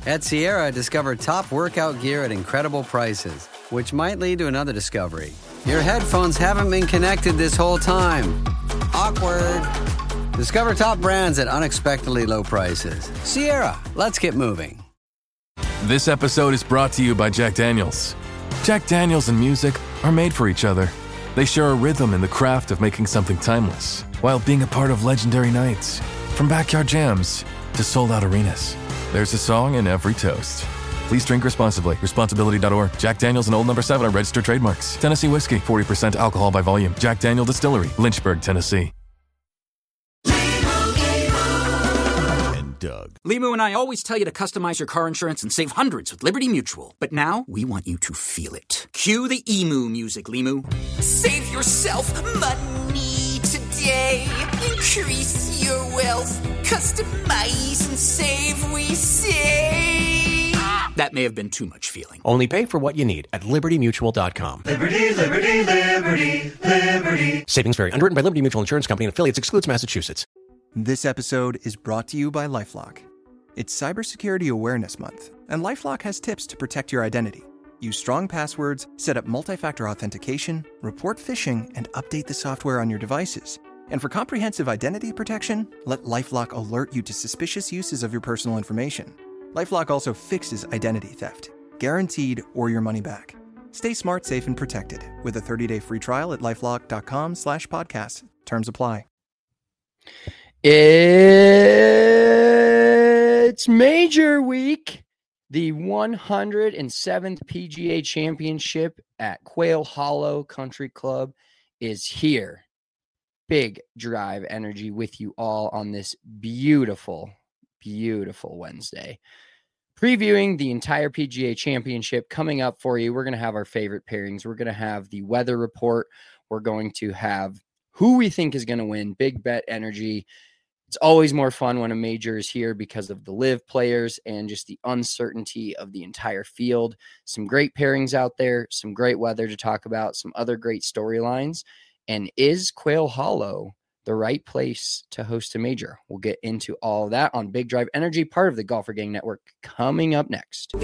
At Sierra, discover top workout gear at incredible prices, which might lead to another discovery. Your headphones haven't been connected this whole time. Awkward. Discover top brands at unexpectedly low prices. Sierra, let's get moving. This episode is brought to you by Jack Daniels. Jack Daniels and music are made for each other. They share a rhythm in the craft of making something timeless, while being a part of legendary nights. From backyard jams to sold-out arenas, there's a song in every toast. Please drink responsibly. Responsibility.org. Jack Daniels and Old No. 7 are registered trademarks. Tennessee whiskey, 40% alcohol by volume. Jack Daniel Distillery, Lynchburg, Tennessee. Doug. Limu and I always tell you to customize your car insurance and save hundreds with Liberty Mutual. But now, we want you to feel it. Cue the emu music, Limu. Save yourself money today. Increase your wealth. Customize and save, we say. That may have been too much feeling. Only pay for what you need at LibertyMutual.com. Liberty, liberty, liberty, liberty. Savings vary. Underwritten by Liberty Mutual Insurance Company and affiliates. Excludes Massachusetts. This episode is brought to you by LifeLock. It's Cybersecurity Awareness Month, and LifeLock has tips to protect your identity. Use strong passwords, set up multi-factor authentication, report phishing, and update the software on your devices. And for comprehensive identity protection, let LifeLock alert you to suspicious uses of your personal information. LifeLock also fixes identity theft, guaranteed or your money back. Stay smart, safe, and protected with a 30-day free trial at LifeLock.com/podcast. Terms apply. It's Major Week. The 107th PGA Championship at Quail Hollow Country Club is here. Big Drive Energy with you all on this beautiful, beautiful Wednesday. Previewing the entire PGA Championship coming up for you. We're going to have our favorite pairings. We're going to have the weather report. We're going to have who we think is going to win. Big Bet Energy. It's always more fun when a major is here because of the live players and just the uncertainty of the entire field. Some great pairings out there, some great weather to talk about, some other great storylines. And is Quail Hollow the right place to host a major? We'll get into all of that on Big Drive Energy, part of the Golfer Gang Network, coming up next.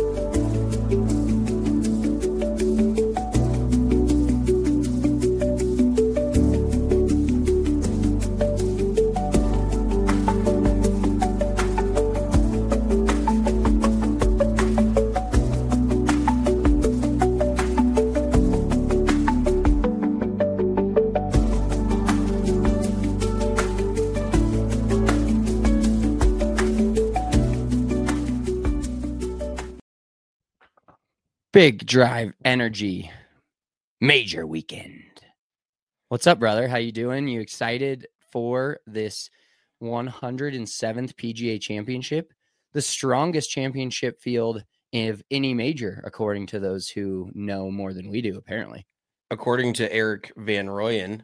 Big Drive Energy Major Weekend. What's up, brother? How you doing? You excited for this 107th PGA Championship? The strongest championship field of any major, according to those who know more than we do, apparently. According to Eric Van Rooyen,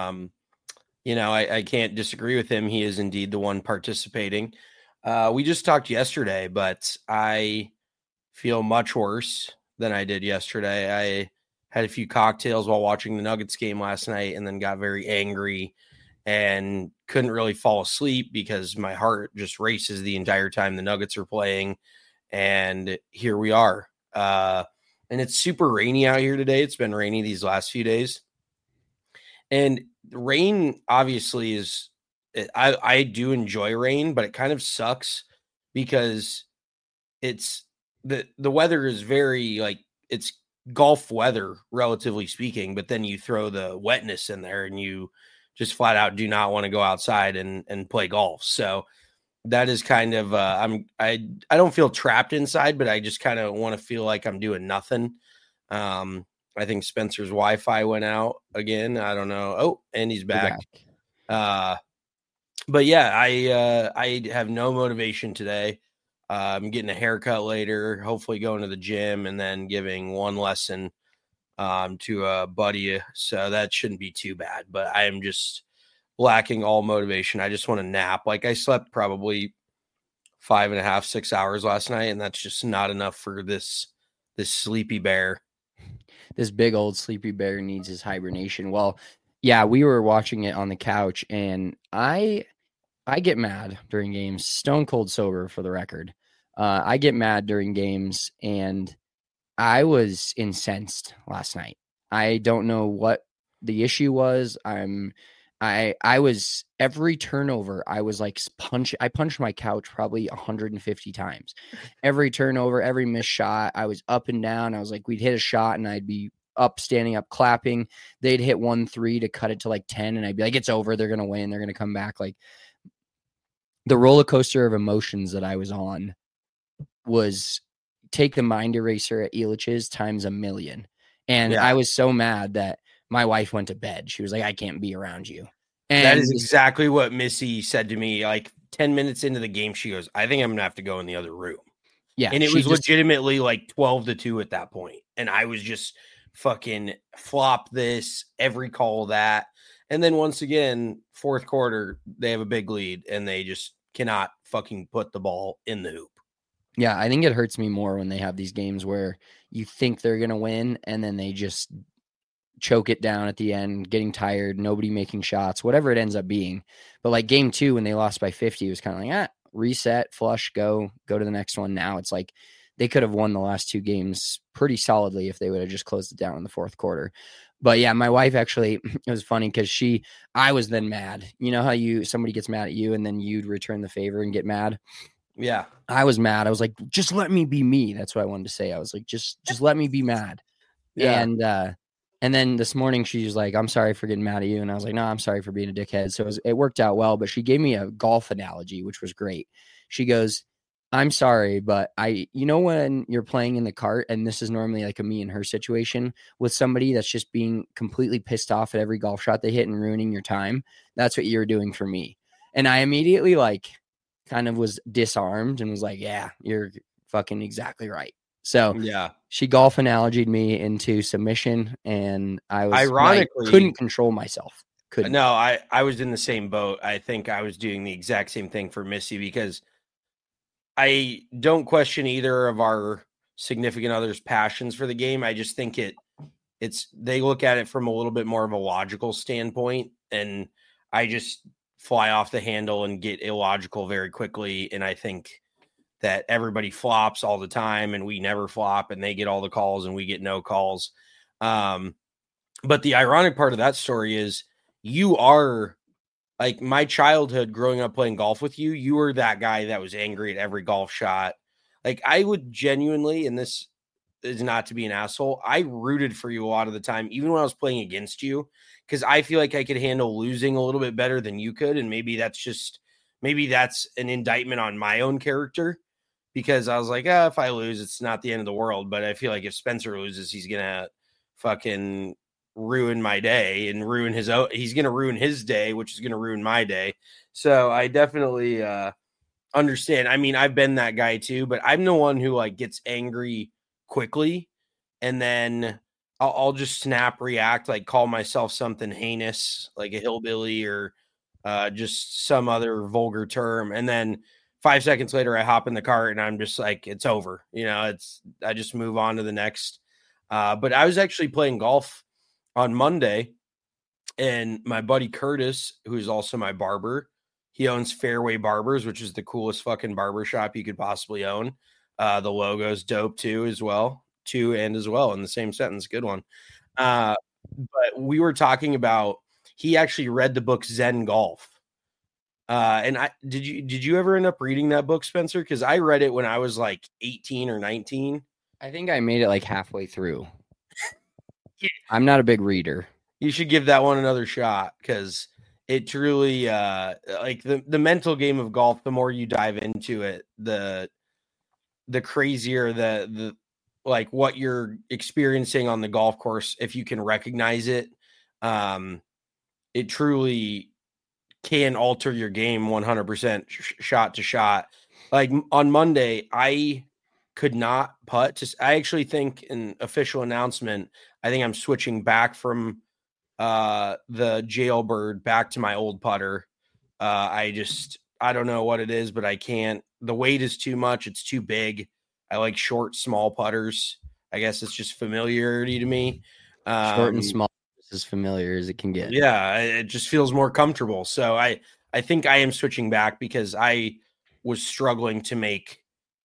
I can't disagree with him. He is indeed the one participating. We just talked yesterday, but I feel much worse than I did yesterday. I had a few cocktails while watching the Nuggets game last night and then got very angry and couldn't really fall asleep because my heart just races the entire time the Nuggets are playing. And here we are. And it's super rainy out here today. It's been rainy these last few days. And rain obviously is, I do enjoy rain, but it kind of sucks because it's, the weather is very it's golf weather, relatively speaking, but then you throw the wetness in there and you just flat out do not want to go outside and play golf. So that is kind of, I don't feel trapped inside, but I just kind of want to feel like I'm doing nothing. I think Spencer's Wi-Fi went out again. I don't know. Oh, and he's back. But yeah, I have no motivation today. I'm getting a haircut later, hopefully going to the gym and then giving one lesson to a buddy. So that shouldn't be too bad, but I am just lacking all motivation. I just want to nap. I slept probably 5.5, 6 hours last night, and that's just not enough for this sleepy bear. This big old sleepy bear needs his hibernation. Well, yeah, we were watching it on the couch, and I get mad during games, stone cold sober for the record. I get mad during games, and I was incensed last night. I don't know what the issue was. I was every turnover. I was like I punched my couch probably 150 times. Every turnover, every missed shot, I was up and down. I was like, we'd hit a shot and I'd be up, standing up, clapping. They'd hit 1-3 to cut it to like 10, and I'd be like, it's over. They're gonna win. They're gonna come back. Like, the roller coaster of emotions that I was on was take the mind eraser at Elitch's times a million. And I was so mad that my wife went to bed. She was like, I can't be around you. And that is exactly what Missy said to me. Like 10 minutes into the game, she goes, I think I'm going to have to go in the other room. Yeah. And it was legitimately like 12-2 at that point. And I was just fucking flop this, every call that. And then once again, fourth quarter, they have a big lead and they just cannot fucking put the ball in the hoop. Yeah, I think it hurts me more when they have these games where you think they're going to win and then they just choke it down at the end, getting tired, nobody making shots, whatever it ends up being. But like game 2, when they lost by 50, it was kind of like, reset, flush, go to the next one. Now it's like they could have won the last 2 games pretty solidly if they would have just closed it down in the fourth quarter. But yeah, my wife actually, it was funny because I was then mad. You know how somebody gets mad at you and then you'd return the favor and get mad? Yeah. I was mad. I was like, just let me be me. That's what I wanted to say. I was like, just let me be mad. Yeah. And then this morning she was like, I'm sorry for getting mad at you. And I was like, no, I'm sorry for being a dickhead. So it worked out well, but she gave me a golf analogy, which was great. She goes, I'm sorry, but when you're playing in the cart, and this is normally like a me and her situation with somebody that's just being completely pissed off at every golf shot they hit and ruining your time. That's what you're doing for me. And I immediately kind of was disarmed and was like, yeah, you're fucking exactly right. So yeah, she golf analogied me into submission, and I was ironically couldn't control myself. No, I was in the same boat. I think I was doing the exact same thing for Missy because I don't question either of our significant others' passions for the game. I just think they look at it from a little bit more of a logical standpoint, and I just fly off the handle and get illogical very quickly. And I think that everybody flops all the time and we never flop, and they get all the calls and we get no calls. But the ironic part of that story is you are like my childhood growing up playing golf with you. You were that guy that was angry at every golf shot. Like I would genuinely, and this is not to be an asshole, I rooted for you a lot of the time, even when I was playing against you, because I feel like I could handle losing a little bit better than you could. And maybe that's an indictment on my own character, because I was like, if I lose, it's not the end of the world. But I feel like if Spencer loses, he's going to fucking ruin my day and he's going to ruin his day, which is going to ruin my day. So I definitely understand. I mean, I've been that guy too, but I'm the one who gets angry quickly, and then I'll just snap react, call myself something heinous, like a hillbilly or just some other vulgar term. And then 5 seconds later, I hop in the cart and I'm just like, it's over. I just move on to the next. But I was actually playing golf on Monday, and my buddy Curtis, who's also my barber, he owns Fairway Barbers, which is the coolest fucking barber shop you could possibly own. The logo's dope too, as well. In the same sentence. Good one. But we were talking about, he actually read the book Zen Golf. And did you ever end up reading that book, Spencer? Because I read it when I was 18 or 19. I think I made it halfway through. I'm not a big reader. You should give that one another shot, because it truly the mental game of golf, the more you dive into it, the crazier the what you're experiencing on the golf course, if you can recognize it. It truly can alter your game 100% shot to shot. On Monday, I could not putt. I actually think an official announcement, I think I'm switching back from the Jailbird back to my old putter. I don't know what it is, but I can't. The weight is too much. It's too big. I like short, small putters. I guess it's just familiarity to me. Short and small is as familiar as it can get. Yeah, it just feels more comfortable. So I think I am switching back, because I was struggling to make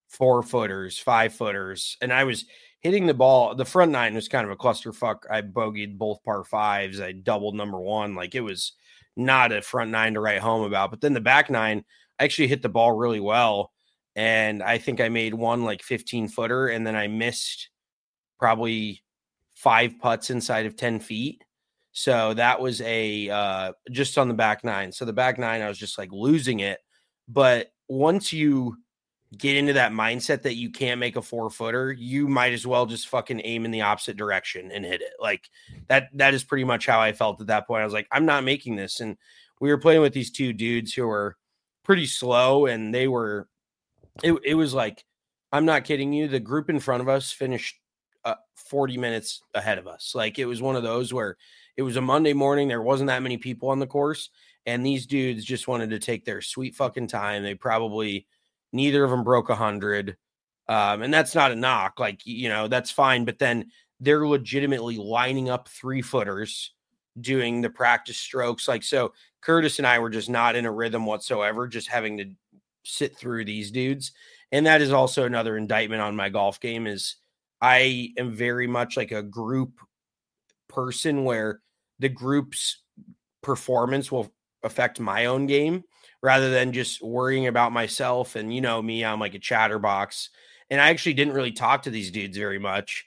4-footers, 5-footers, and I was hitting the ball. The front nine was kind of a clusterfuck. I bogeyed both par fives. I doubled number one. Like, it was not a front nine to write home about. But then the back nine, I actually hit the ball really well. And I think I made one like 15-footer, and then I missed probably 5 putts inside of 10 feet. So that was just on the back nine. So the back nine, I was just like losing it. But once you get into that mindset that you can't make a 4-footer, you might as well just fucking aim in the opposite direction and hit it. Like that is pretty much how I felt at that point. I was like, I'm not making this. And we were playing with these 2 dudes who were pretty slow, and they were, it was like, I'm not kidding you. The group in front of us finished 40 minutes ahead of us. Like, it was one of those where it was a Monday morning. There wasn't that many people on the course, and these dudes just wanted to take their sweet fucking time. They probably, neither of them broke 100. And that's not a knock. Like, that's fine. But then they're legitimately lining up 3-footers, doing the practice strokes. Like, so Curtis and I were just not in a rhythm whatsoever, just having to sit through these dudes. And that is also another indictment on my golf game, is I am very much like a group person, where the group's performance will affect my own game rather than just worrying about myself. And me, I'm like a chatterbox, and I actually didn't really talk to these dudes very much.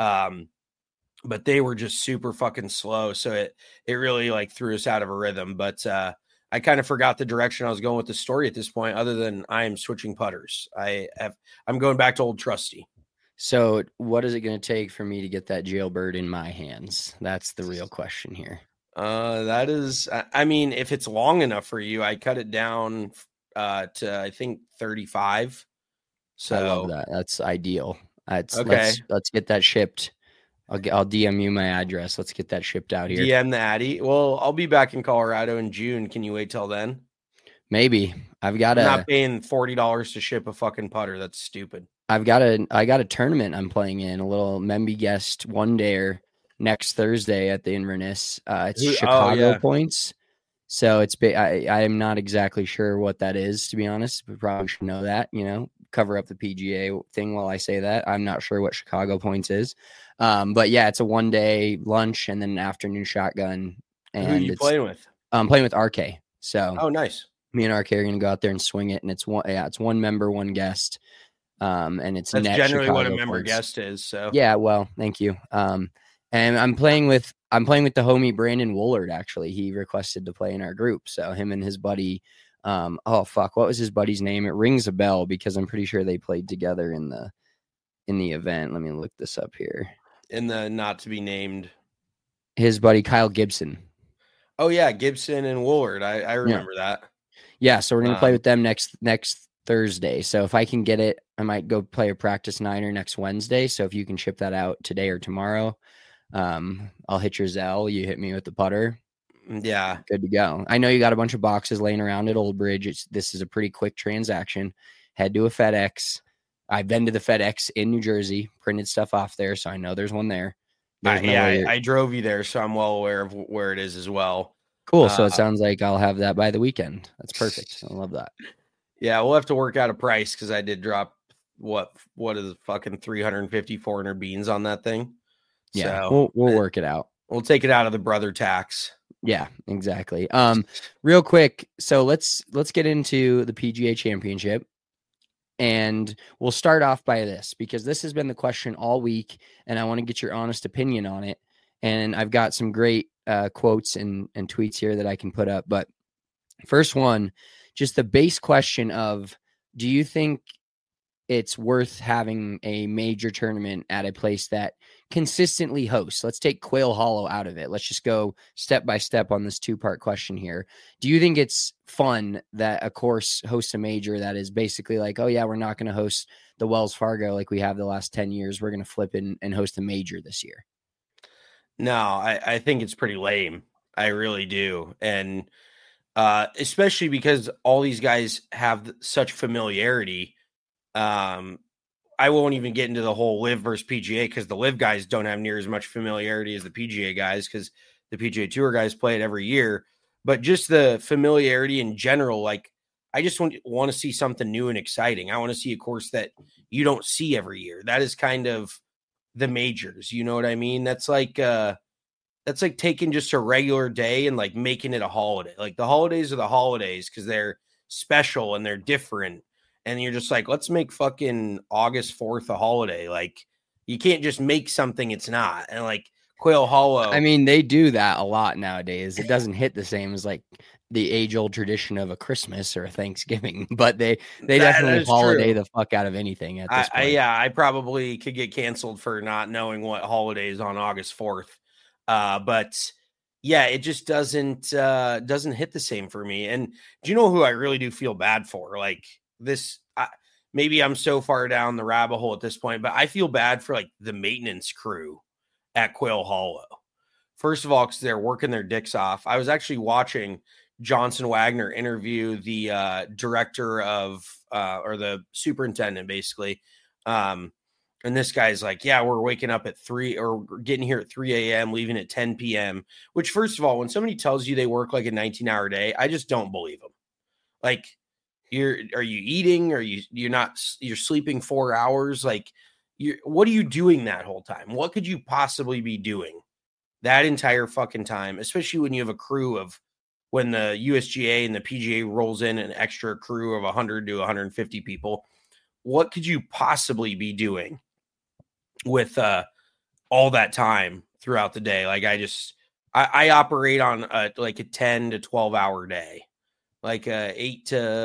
But they were just super fucking slow. So it really like threw us out of a rhythm. But I kind of forgot the direction I was going with the story at this point, other than I am switching putters. I'm going back to old trusty. So what is it going to take for me to get that jailbird in my hands? That's the real question here. That is, I mean, if it's long enough for you, I cut it down to, I think, 35. So I love that. That's ideal. Okay. Let's get that shipped. I'll DM you my address. Let's get that shipped out here. DM the Addy. Well, I'll be back in Colorado in June. Can you wait till then? Maybe. I'm not paying $40 to ship a fucking putter. That's stupid. I got a tournament I'm playing in, a little Memby Guest one dayer next Thursday at the Inverness. It's Chicago points. So I am not exactly sure what that is, to be honest, but probably should know that, cover up the PGA thing while I say that. I'm not sure what Chicago points is. But yeah, it's a 1-day lunch and then an afternoon shotgun. And who are you playing with? I'm playing with RK. So nice. Me and RK are going to go out there and swing it. And it's one member, one guest. And it's that's generally Chicago what a member points. Guest is. So yeah, well, thank you. And I'm playing with the homie Brandon Woolard. Actually, he requested to play in our group. So him and his buddy, what was his buddy's name? It rings a bell because I'm pretty sure they played together in the event. Let me look this up here. In the not to be named, his buddy Kyle Gibson. Oh yeah, Gibson and Woolard. I remember that. Yeah, so we're gonna play with them next Thursday. So if I can get it, I might go play a practice niner next Wednesday. So if you can ship that out today or tomorrow, I'll hit your Zelle. You hit me with the putter. Yeah, good to go. I know you got a bunch of boxes laying around at Old Bridge. This is a pretty quick transaction. Head to a FedEx. I've been to the FedEx in New Jersey, printed stuff off there, so I know there's one there. I drove you there, so I'm well aware of where it is as well. Cool. So it sounds like I'll have that by the weekend. That's perfect. I love that. Yeah, we'll have to work out a price because I did drop what is fucking 350, 400 beans on that thing. Yeah, so we'll work it out. We'll take it out of the brother tax. Yeah, exactly. Real quick, so let's get into the PGA Championship. And we'll start off by this, because this has been the question all week, and I want to get your honest opinion on it. And I've got some great quotes and tweets here that I can put up. But first one, just the base question of, do you think it's worth having a major tournament at a place that consistently hosts? Let's take Quail Hollow out of it. Let's just go step by step on this 2-part question here. Do you think it's fun that a course hosts a major that is basically like, oh yeah, we're not going to host the Wells Fargo like we have the last 10 years. We're going to flip in and host a major this year? No, I think it's pretty lame. I really do. And especially because all these guys have such familiarity. I won't even get into the whole Live versus PGA because the Live guys don't have near as much familiarity as the PGA guys because the PGA Tour guys play it every year. But just the familiarity in general, like I just want to see something new and exciting. I want to see a course that you don't see every year. That is kind of the majors. You know what I mean? That's like taking just a regular day and like making it a holiday. Like the holidays are the holidays because they're special and they're different. And you're just like, let's make fucking August 4th a holiday. Like you can't just make something it's not. And like Quail Hollow. I mean, they do that a lot nowadays. It doesn't hit the same as like the age-old tradition of a Christmas or a Thanksgiving, but they definitely holiday the fuck out of anything at this point. I probably could get canceled for not knowing what holiday is on August 4th. But yeah, it just doesn't hit the same for me. And do you know who I really do feel bad for? Like this, maybe I'm so far down the rabbit hole at this point, but I feel bad for like the maintenance crew at Quail Hollow. First of all, because they're working their dicks off. I was actually watching Johnson Wagner interview the director of or the superintendent basically. And this guy's like, yeah, we're waking up at 3 or getting here at 3 a.m., leaving at 10 p.m., which first of all, when somebody tells you they work like a 19-hour day, I just don't believe them. Like are you eating? You're sleeping 4 hours? Like what are you doing that whole time? What could you possibly be doing that entire fucking time? Especially when you have a crew of, when the USGA and the PGA rolls in an extra crew of 100 to 150 people, what could you possibly be doing with all that time throughout the day? Like I operate on like a 10 to 12 hour day, like 8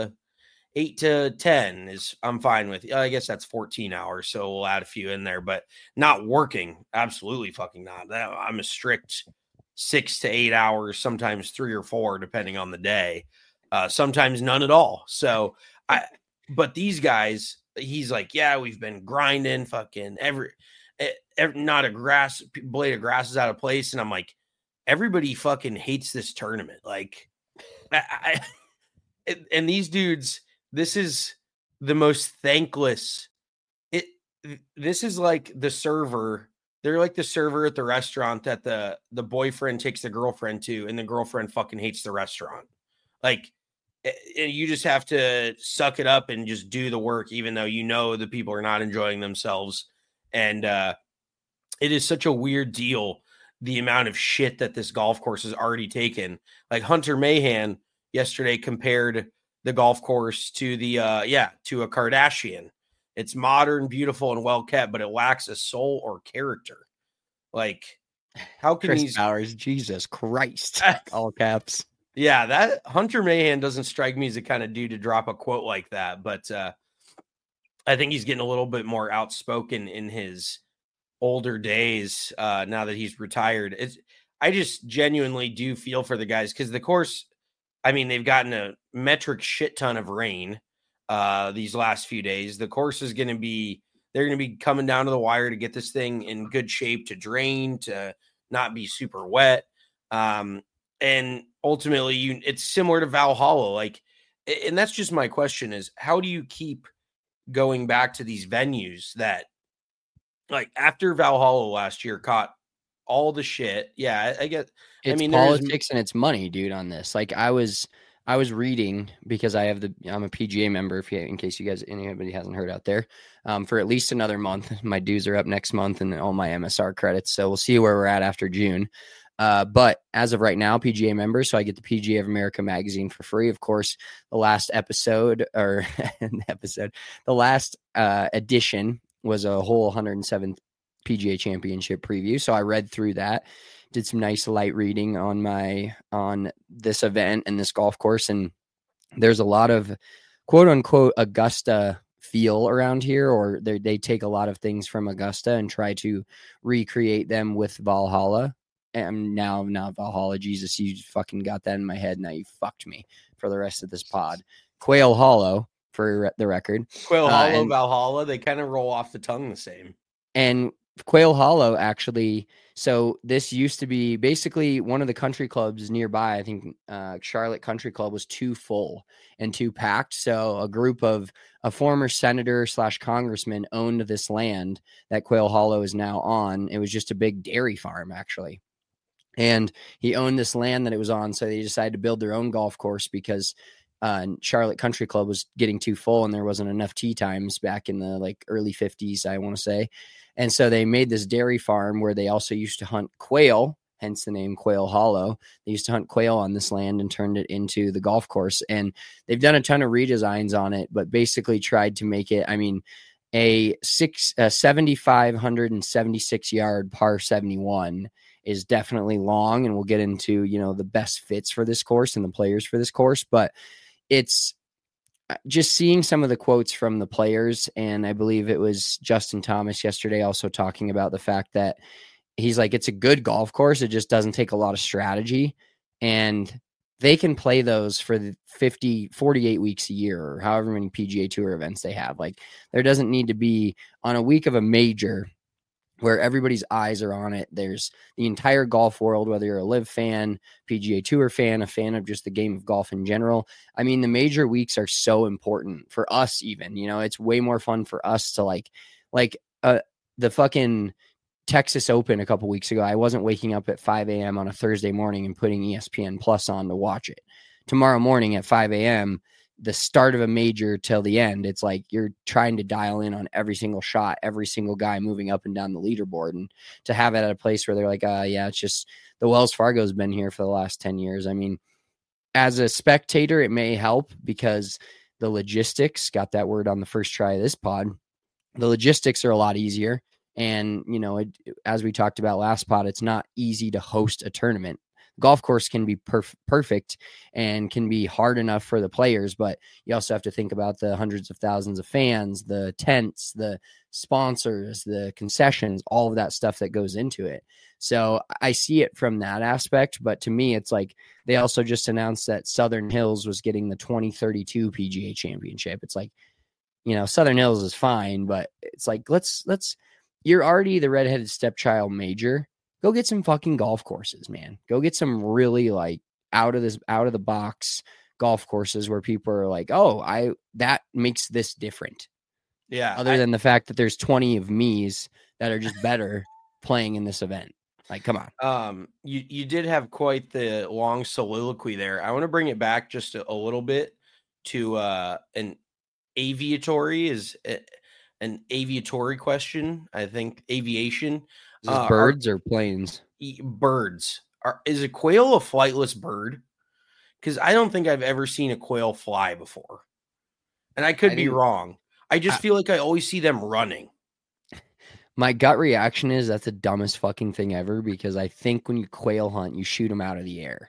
to 10 is I'm fine with. I guess that's 14 hours. So we'll add a few in there, but not working. Absolutely fucking not. I'm a strict 6 to 8 hours, sometimes 3 or 4, depending on the day. Sometimes none at all. So but these guys, he's like, yeah, we've been grinding fucking every not a blade of grass is out of place. And I'm like, everybody fucking hates this tournament. Like and these dudes, this is the most thankless. This is like the server. They're like the server at the restaurant that the boyfriend takes the girlfriend to, and the girlfriend fucking hates the restaurant. Like, you just have to suck it up and just do the work, even though you know the people are not enjoying themselves. And it is such a weird deal, the amount of shit that this golf course has already taken. Like Hunter Mahan yesterday compared the golf course to to a Kardashian. It's modern, beautiful, and well kept, but it lacks a soul or character. Like, how can Chris Bowers, Jesus Christ, all caps. Yeah, that Hunter Mahan doesn't strike me as the kind of dude to drop a quote like that, but I think he's getting a little bit more outspoken in his older days now that he's retired. I just genuinely do feel for the guys because the course, I mean, they've gotten a metric shit ton of rain these last few days. The course is they're going to be coming down to the wire to get this thing in good shape to drain, to not be super wet. And ultimately it's similar to Valhalla. Like, and that's just my question is, how do you keep going back to these venues that, like, after Valhalla last year caught all the shit? Yeah, I get, it's politics and it's money, dude, on this. Like I was reading, because I'm a PGA member, in case anybody hasn't heard out there, for at least another month. My dues are up next month and all my MSR credits. So we'll see where we're at after June. But as of right now, PGA member, so I get the PGA of America magazine for free. Of course, the last edition was a whole 107th PGA Championship preview. So I read through that, did some nice light reading on this event and this golf course. And there's a lot of quote unquote Augusta feel around here, or they take a lot of things from Augusta and try to recreate them with Valhalla. And now Valhalla, Jesus, you fucking got that in my head. Now you fucked me for the rest of this pod. Quail Hollow, for the record. Quail Hollow, and Valhalla, they kind of roll off the tongue the same. And Quail Hollow, actually, so this used to be basically one of the country clubs nearby. I think Charlotte Country Club was too full and too packed. So a group of a former senator / congressman owned this land that Quail Hollow is now on. It was just a big dairy farm, actually. And he owned this land that it was on. So they decided to build their own golf course because Charlotte Country Club was getting too full and there wasn't enough tee times back in the like early 50s, I want to say. And so they made this dairy farm where they also used to hunt quail, hence the name Quail Hollow. They used to hunt quail on this land and turned it into the golf course. And they've done a ton of redesigns on it, but basically tried to make it, I mean, a 7,576 yard par 71 is definitely long. And we'll get into, you know, the best fits for this course and the players for this course, but it's just seeing some of the quotes from the players. And I believe it was Justin Thomas yesterday also talking about the fact that he's like, it's a good golf course. It just doesn't take a lot of strategy, and they can play those for the 48 weeks a year or however many PGA Tour events they have. Like, there doesn't need to be on a week of a major where everybody's eyes are on it. There's the entire golf world, whether you're a live fan, PGA Tour fan, a fan of just the game of golf in general. I mean, the major weeks are so important for us even, you know, it's way more fun for us to like the fucking Texas Open a couple weeks ago. I wasn't waking up at 5 a.m. on a Thursday morning and putting ESPN Plus on to watch it. Tomorrow morning at 5 a.m., the start of a major till the end, it's like you're trying to dial in on every single shot, every single guy moving up and down the leaderboard. And to have it at a place where they're like, yeah, it's just the Wells Fargo's been here for the last 10 years. I mean, as a spectator, it may help because the logistics, got that word on the first try of this pod, the logistics are a lot easier. And, you know, as we talked about last pod, it's not easy to host a tournament. Golf course can be perfect and can be hard enough for the players, but you also have to think about the hundreds of thousands of fans, the tents, the sponsors, the concessions, all of that stuff that goes into it. So I see it from that aspect, but to me, it's like they also just announced that Southern Hills was getting the 2032 PGA Championship. It's like, you know, Southern Hills is fine, but it's like, let's you're already the redheaded stepchild major. Go get some fucking golf courses, man. Go get some really like out of the box golf courses where people are like, oh, that makes this different. Yeah. Other than the fact that there's 20 of me's that are just better playing in this event. Like, come on. You did have quite the long soliloquy there. I want to bring it back just a little bit to an aviatory question. I think aviation. Is this birds or planes? Birds. Is a quail a flightless bird? Because I don't think I've ever seen a quail fly before. And I could be wrong. I just feel like I always see them running. My gut reaction is that's the dumbest fucking thing ever, because I think when you quail hunt, you shoot them out of the air.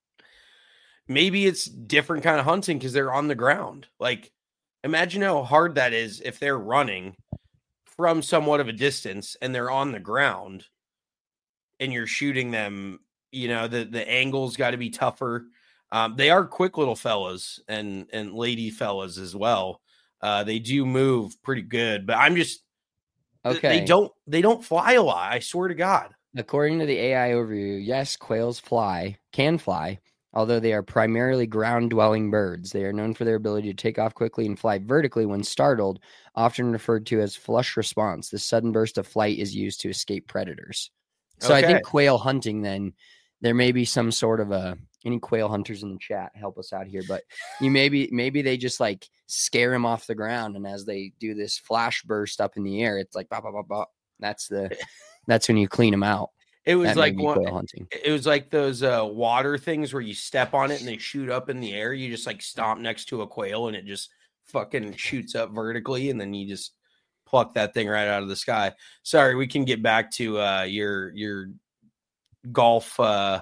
Maybe it's different kind of hunting because they're on the ground. Like, imagine how hard that is if they're running from somewhat of a distance and they're on the ground and you're shooting them. You know, the angle's got to be tougher. They are quick little fellas and lady fellas as well. They do move pretty good, but I'm just, okay. They don't fly a lot. I swear to God. According to the AI overview, yes, quails can fly. Although they are primarily ground-dwelling birds, they are known for their ability to take off quickly and fly vertically when startled, often referred to as flush response. This sudden burst of flight is used to escape predators. So I think quail hunting, then, there may be some sort of any quail hunters in the chat, help us out here, but maybe they just like scare them off the ground, and as they do this flash burst up in the air, it's like, bah, bah, bah, bah. That's when you clean them out. It was like it was like those water things where you step on it and they shoot up in the air. You just like stomp next to a quail and it just fucking shoots up vertically, and then you just pluck that thing right out of the sky. Sorry, we can get back to your golf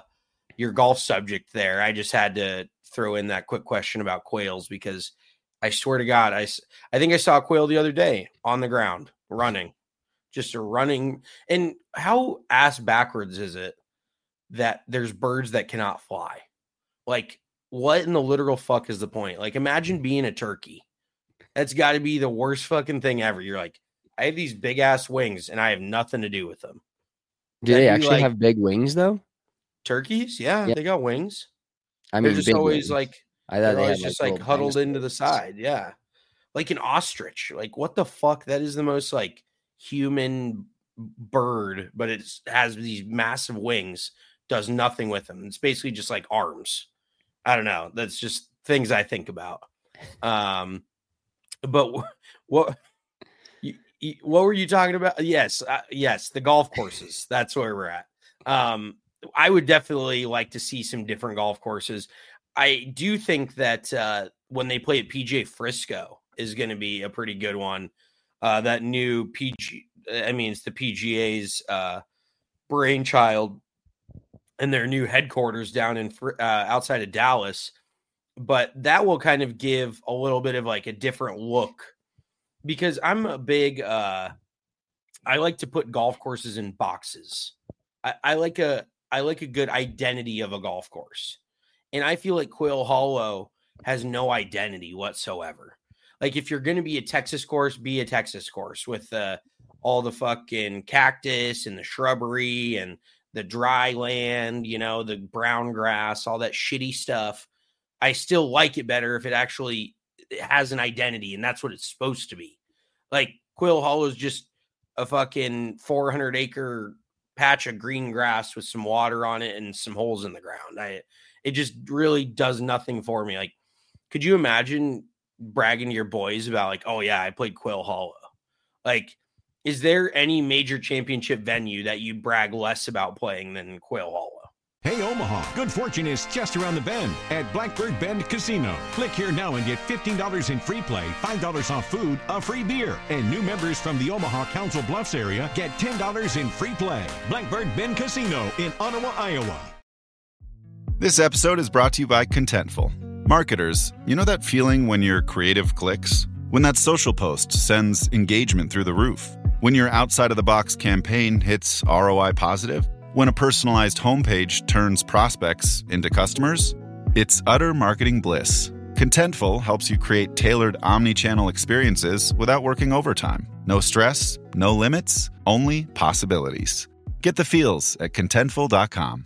subject there. I just had to throw in that quick question about quails because I swear to God, I think I saw a quail the other day on the ground running. Just a running. And how ass backwards is it that there's birds that cannot fly? Like, what in the literal fuck is the point? Like, imagine being a turkey. That's got to be the worst fucking thing ever. You're like, I have these big ass wings and I have nothing to do with them. Do they actually have big wings though? Turkeys? Yeah, they got wings. I mean, they're just always wings. like, I thought they're always just like huddled into the side. Yeah. Like an ostrich. Like, what the fuck? That is the most like human bird, but it has these massive wings, does nothing with them. It's basically just like arms. I don't know. That's just things I think about. But what were you talking about? Yes, the golf courses. That's where we're at. I would definitely like to see some different golf courses. I do think that when they play at PGA Frisco is going to be a pretty good one. That new it's the PGA's brainchild and their new headquarters down in outside of Dallas. But that will kind of give a little bit of like a different look, because I'm a big, I like to put golf courses in boxes. I like a good identity of a golf course. And I feel like Quail Hollow has no identity whatsoever. Like, if you're going to be a Texas course, be a Texas course with all the fucking cactus and the shrubbery and the dry land, the brown grass, all that shitty stuff. I still like it better if it actually has an identity, and that's what it's supposed to be. Like, Quail Hollow is just a fucking 400-acre patch of green grass with some water on it and some holes in the ground. It just really does nothing for me. Like, could you imagine bragging to your boys about like, oh yeah, I played Quail Hollow? Like, is there any major championship venue that you brag less about playing than Quail Hollow? Hey, Omaha, good fortune is just around the bend at Blackbird Bend Casino. Click here now and get $15 in free play, $5 off food, a free beer. And new members from the Omaha Council Bluffs area get $10 in free play. Blackbird Bend Casino in Ottawa, Iowa. This episode is brought to you by Contentful. Marketers, you know that feeling when your creative clicks? When that social post sends engagement through the roof? When your outside-of-the-box campaign hits ROI positive? When a personalized homepage turns prospects into customers? It's utter marketing bliss. Contentful helps you create tailored omni-channel experiences without working overtime. No stress, no limits, only possibilities. Get the feels at Contentful.com.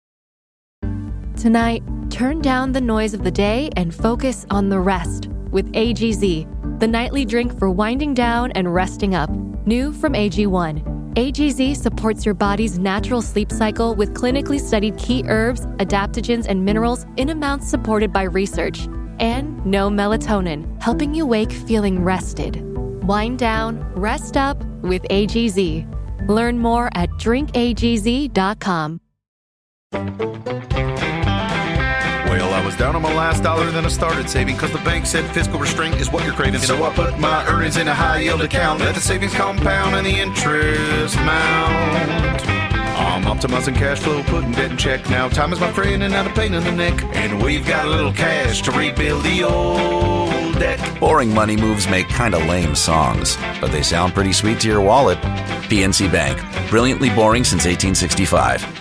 Tonight, turn down the noise of the day and focus on the rest with AGZ, the nightly drink for winding down and resting up. New from AG1. AGZ supports your body's natural sleep cycle with clinically studied key herbs, adaptogens, and minerals in amounts supported by research. And no melatonin, helping you wake feeling rested. Wind down, rest up with AGZ. Learn more at drinkagz.com. Well, I was down on my last dollar, then I started saving because the bank said fiscal restraint is what you're craving. So I put my earnings in a high yield account. Let the savings compound and the interest mount. I'm optimizing cash flow, putting debt in check. Now time is my friend and not a pain in the neck. And we've got a little cash to rebuild the old debt. Boring money moves make kind of lame songs, but they sound pretty sweet to your wallet. PNC Bank, brilliantly boring since 1865.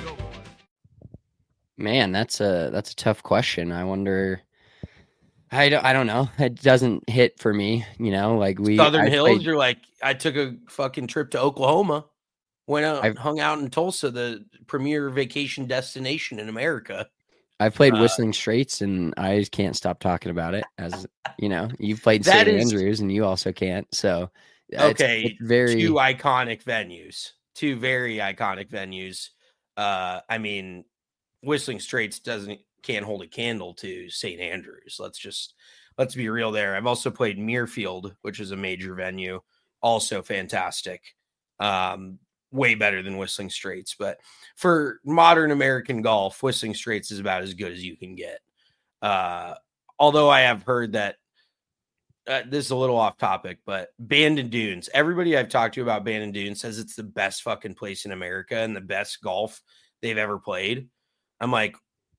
Man, that's a tough question. I wonder. I don't know. It doesn't hit for me. Like Southern Hills. You're like, I took a fucking trip to Oklahoma, went out, hung out in Tulsa, the premier vacation destination in America. I've played Whistling Straits, and I just can't stop talking about it. As you've played St. Andrews, and you also can't. So okay, it's very two iconic venues. Two very iconic venues. I mean, Whistling Straits can't hold a candle to St. Andrews. Let's be real there. I've also played Muirfield, which is a major venue, also fantastic. Way better than Whistling Straits, but for modern American golf, Whistling Straits is about as good as you can get. Although I have heard that this is a little off topic, but Bandon Dunes, everybody I've talked to about Bandon Dunes says it's the best fucking place in America and the best golf they've ever played. I'm like,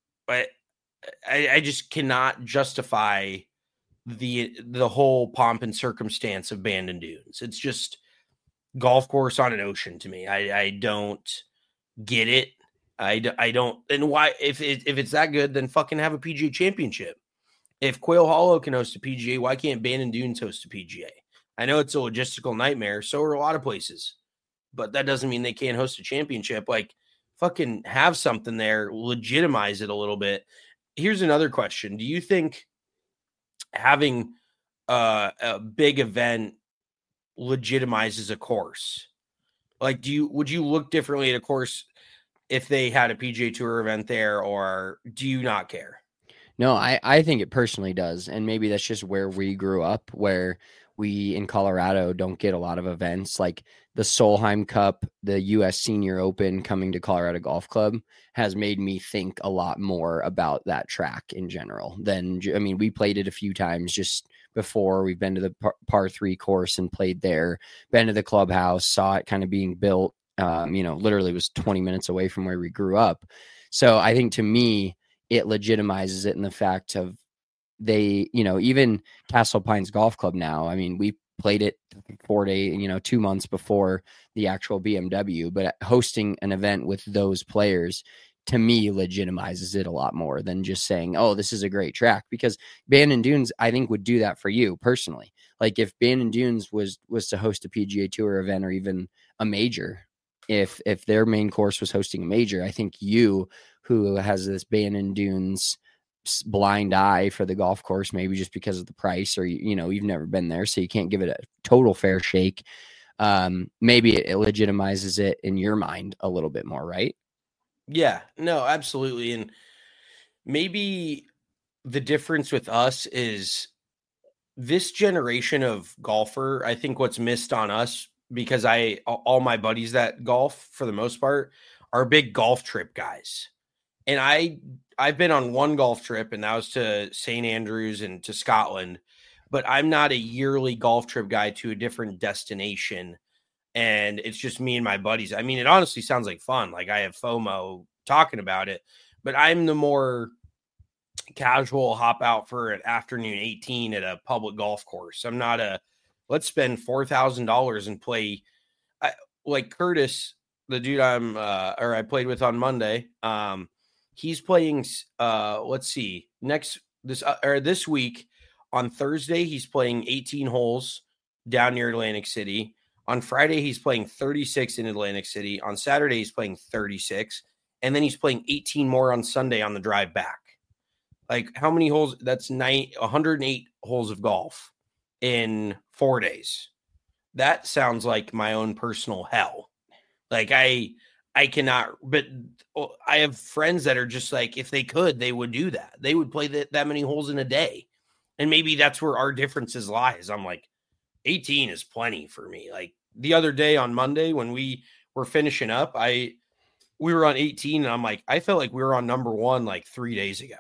I just cannot justify the whole pomp and circumstance of Bandon Dunes. It's just golf course on an ocean to me. I don't get it. I don't. And why, if it's that good, then fucking have a PGA championship. If Quail Hollow can host a PGA, why can't Bandon Dunes host a PGA? I know it's a logistical nightmare. So are a lot of places, but that doesn't mean they can't host a championship. Like, fucking have something there, legitimize it a little bit. Here's another question. Do you think having a big event legitimizes a course? Like, would you look differently at a course if they had a PGA Tour event there, or do you not care? No, I think it personally does. And maybe that's just where we grew up, where we in Colorado don't get a lot of events like the Solheim Cup, the U.S. Senior Open coming to Colorado Golf Club has made me think a lot more about that track in general than, I mean, we played it a few times just before. We've been to the par 3 course and played there, been to the clubhouse, saw it kind of being built, literally was 20 minutes away from where we grew up. So I think to me, it legitimizes it in the fact of they, even Castle Pines Golf Club now, I mean, we played it 4 days, 2 months before the actual BMW, but hosting an event with those players to me legitimizes it a lot more than just saying, oh, this is a great track, because Bandon Dunes, I think, would do that for you personally. Like if Bandon Dunes was to host a PGA Tour event or even a major, if their main course was hosting a major, I think you, who has this Bandon Dunes blind eye for the golf course, maybe just because of the price, or you've never been there, so you can't give it a total fair shake. Maybe it legitimizes it in your mind a little bit more, right? Yeah, no, absolutely. And maybe the difference with us is this generation of golfer. I think what's missed on us, because all my buddies that golf for the most part are big golf trip guys. And I've been on one golf trip, and that was to St. Andrews and to Scotland, but I'm not a yearly golf trip guy to a different destination. And it's just me and my buddies. I mean, it honestly sounds like fun. Like I have FOMO talking about it, but I'm the more casual hop out for an afternoon 18 at a public golf course. I'm not let's spend $4,000 and play like Curtis, the dude I played with on Monday. He's playing, let's see, this week on Thursday, he's playing 18 holes down near Atlantic City. On Friday, he's playing 36 in Atlantic City. On Saturday, he's playing 36. And then he's playing 18 more on Sunday on the drive back. Like how many holes? That's 108 holes of golf in 4 days. That sounds like my own personal hell. Like I cannot, but I have friends that are just like, if they could, they would do that. They would play that many holes in a day. And maybe that's where our differences lies. I'm like, 18 is plenty for me. Like the other day on Monday when we were finishing up, we were on 18 and I'm like, I felt like we were on number 1 like 3 days ago.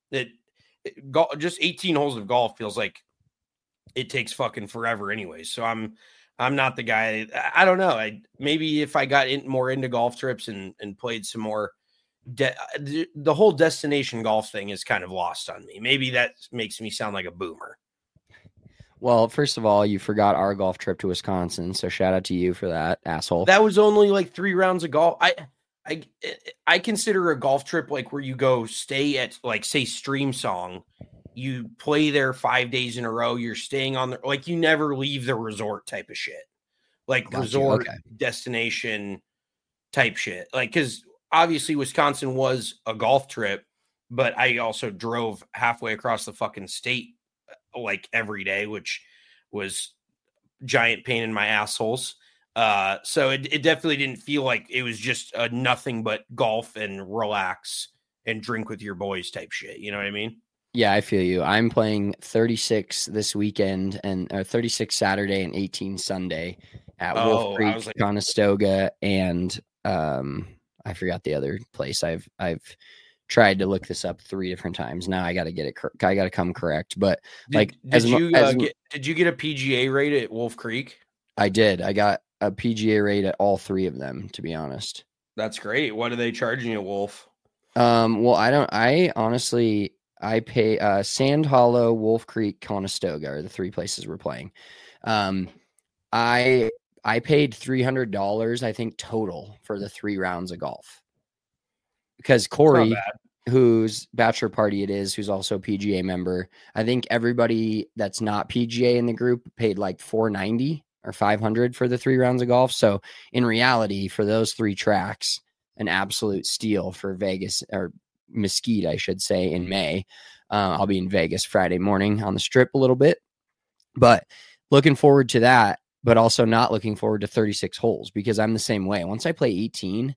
Just 18 holes of golf feels like it takes fucking forever anyway. So I'm not the guy. I don't know. Maybe if I got more into golf trips and played some more, the whole destination golf thing is kind of lost on me. Maybe that makes me sound like a boomer. Well, first of all, you forgot our golf trip to Wisconsin, so shout out to you for that, asshole. That was only like 3 rounds of golf. I consider a golf trip like where you go stay at, like, say, Stream Song. You play there 5 days in a row. You're staying on the, like, you never leave the resort type of shit. Like resort destination type shit. Like, because obviously Wisconsin was a golf trip, but I also drove halfway across the fucking state like every day, which was giant pain in my assholes. So it definitely didn't feel like it was just a nothing but golf and relax and drink with your boys type shit. You know what I mean? Yeah, I feel you. I'm playing 36 this weekend and 36 Saturday and 18 Sunday at Wolf Creek, Conestoga, and I forgot the other place. I've tried to look this up 3 different times. Now I got to get it. I got to come correct. But did you get a PGA rate at Wolf Creek? I did. I got a PGA rate at all 3 of them, to be honest. That's great. What are they charging you, Wolf? Well, I pay Sand Hollow, Wolf Creek, Conestoga are the 3 places we're playing. I paid $300, I think, total for the 3 rounds of golf. Because Corey, whose bachelor party it is, who's also a PGA member, I think everybody that's not PGA in the group paid like $490 or $500 for the 3 rounds of golf. So in reality, for those 3 tracks, an absolute steal for Vegas, or Mesquite, I should say, in May. I'll be in Vegas Friday morning on the Strip a little bit, but looking forward to that, but also not looking forward to 36 holes, because I'm the same way. Once I play 18,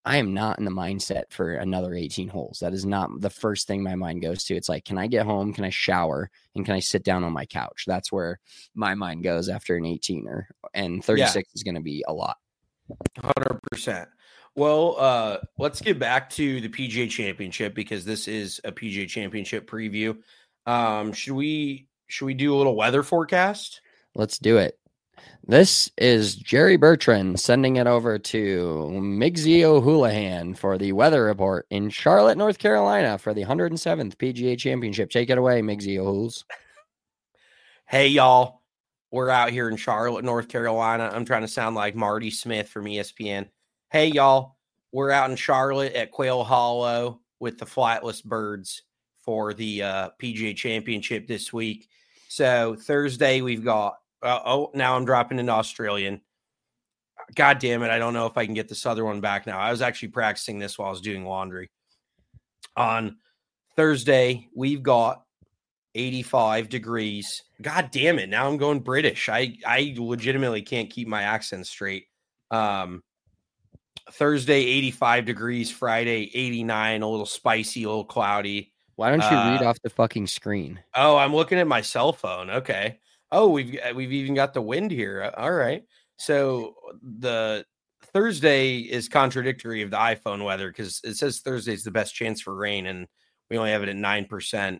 I am not in the mindset for another 18 holes. That is not the first thing my mind goes to. It's like, can I get home? Can I shower? And can I sit down on my couch? That's where my mind goes after an 18er. And 36 is going to be a lot. 100%. Well, let's get back to the PGA Championship because this is a PGA Championship preview. Should we do a little weather forecast? Let's do it. This is Jerry Bertrand sending it over to Migsy O'Houlihan for the weather report in Charlotte, North Carolina for the 107th PGA Championship. Take it away, Migsy O'Houls. Hey, y'all. We're out here in Charlotte, North Carolina. I'm trying to sound like Marty Smith from ESPN. Hey, y'all. We're out in Charlotte at Quail Hollow with the Flightless Birds for the PGA Championship this week. So Thursday we've got now I'm dropping into Australian. God damn it. I don't know if I can get this other one back now. I was actually practicing this while I was doing laundry. On Thursday, we've got 85 degrees. God damn it. Now I'm going British. I legitimately can't keep my accent straight. Thursday, 85 degrees. Friday, 89, a little spicy, a little cloudy. Why don't you read off the fucking screen? Oh, I'm looking at my cell phone. Okay. Oh, we've even got the wind here. All right. So the Thursday is contradictory of the iPhone weather because it says Thursday's the best chance for rain, and we only have it at 9%.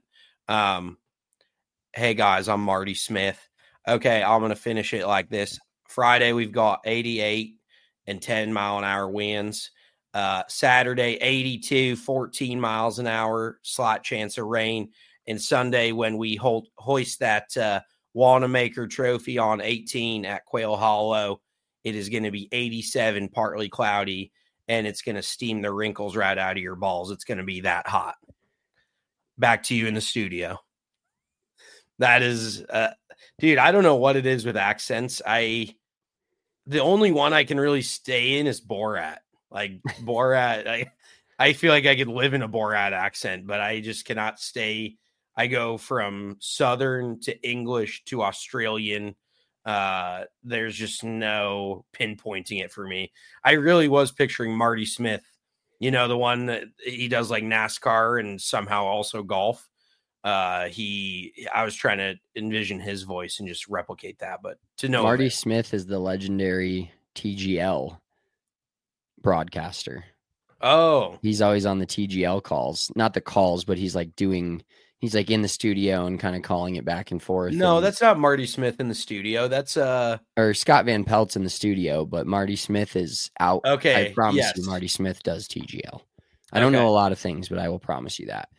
Hey, guys, I'm Marty Smith. Okay, I'm going to finish it like this. Friday, we've got 88 and 10-mile-an-hour winds. Saturday, 82, 14 miles an hour, slight chance of rain. And Sunday, when we hoist that Wanamaker Trophy on 18 at Quail Hollow, it is going to be 87, partly cloudy, and it's going to steam the wrinkles right out of your balls. It's going to be that hot. Back to you in the studio. That is, dude, I don't know what it is with accents. The only one I can really stay in is Borat. Like Borat, I feel like I could live in a Borat accent, but I just cannot stay. I go from Southern to English to Australian. There's just no pinpointing it for me. I really was picturing Marty Smith, the one that he does like NASCAR and somehow also golf. I was trying to envision his voice and just replicate that, but to know Marty Smith is the legendary TGL broadcaster. Oh, he's always on the TGL calls, not the calls, but he's like in the studio and kind of calling it back and forth. No, that's not Marty Smith in the studio. That's or Scott Van Pelt's in the studio, but Marty Smith is out. Okay. I promise you Marty Smith does TGL. I don't know a lot of things, but I will promise you that.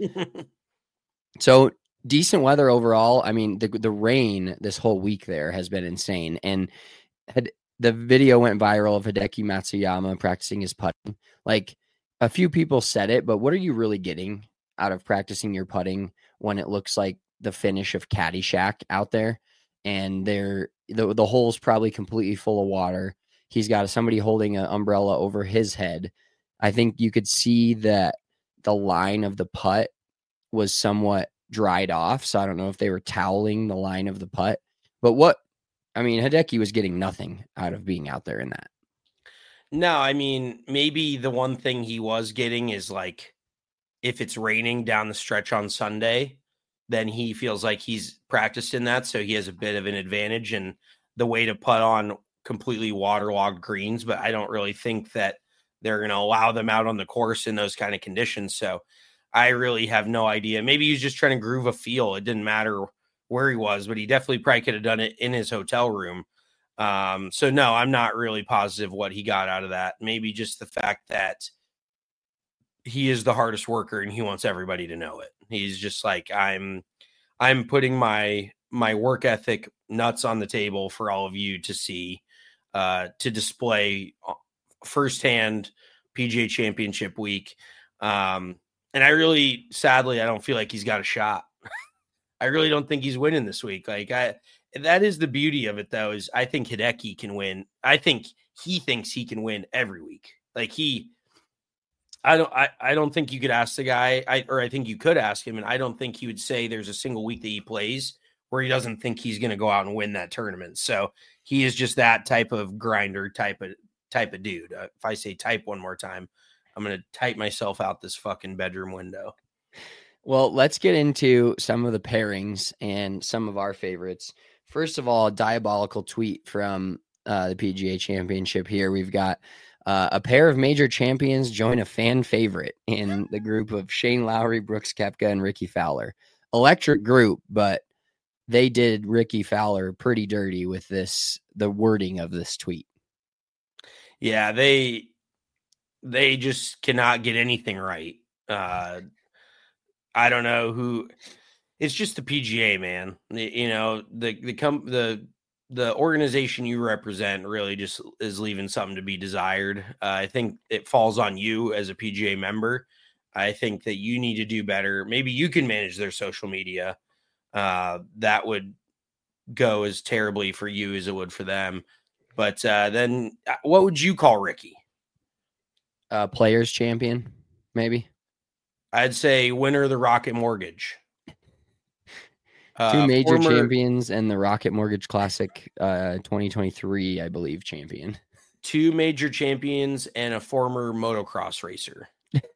So decent weather overall. I mean, the rain this whole week there has been insane. And the video went viral of Hideki Matsuyama practicing his putting. Like, a few people said it, but what are you really getting out of practicing your putting when it looks like the finish of Caddyshack out there? And the hole's probably completely full of water. He's got somebody holding an umbrella over his head. I think you could see that the line of the putt was somewhat dried off. So I don't know if they were toweling the line of the putt. But Hideki was getting nothing out of being out there in that. No, I mean, maybe the one thing he was getting is like, if it's raining down the stretch on Sunday, then he feels like he's practiced in that. So he has a bit of an advantage in the way to putt on completely waterlogged greens. But I don't really think that they're going to allow them out on the course in those kind of conditions. So I really have no idea. Maybe he's just trying to groove a feel. It didn't matter where he was, but he definitely probably could have done it in his hotel room. So no, I'm not really positive what he got out of that. Maybe just the fact that he is the hardest worker and he wants everybody to know it. He's just like, I'm putting my work ethic nuts on the table for all of you to see, to display firsthand PGA Championship week. And I really, sadly, I don't feel like he's got a shot. I really don't think he's winning this week. That is the beauty of it, though, is I think Hideki can win. I think he thinks he can win every week. I don't think you could ask the guy, I think you could ask him, and I don't think he would say there's a single week that he plays where he doesn't think he's going to go out and win that tournament. So he is just that type of grinder, type of dude. If I say type one more time, I'm going to type myself out this fucking bedroom window. Well, let's get into some of the pairings and some of our favorites. First of all, a diabolical tweet from the PGA Championship here. We've got a pair of major champions join a fan favorite in the group of Shane Lowry, Brooks Koepka, and Ricky Fowler. Electric group, but they did Ricky Fowler pretty dirty with the wording of this tweet. Yeah, they just cannot get anything right. I don't know who. It's just the PGA, man. You know, the organization you represent really just is leaving something to be desired. I think it falls on you as a PGA member. I think that you need to do better. Maybe you can manage their social media. That would go as terribly for you as it would for them. But then what would you call Ricky? Players champion, maybe. I'd say winner of the Rocket Mortgage. Two major champions and the Rocket Mortgage Classic 2023, I believe, champion. Two major champions and a former motocross racer.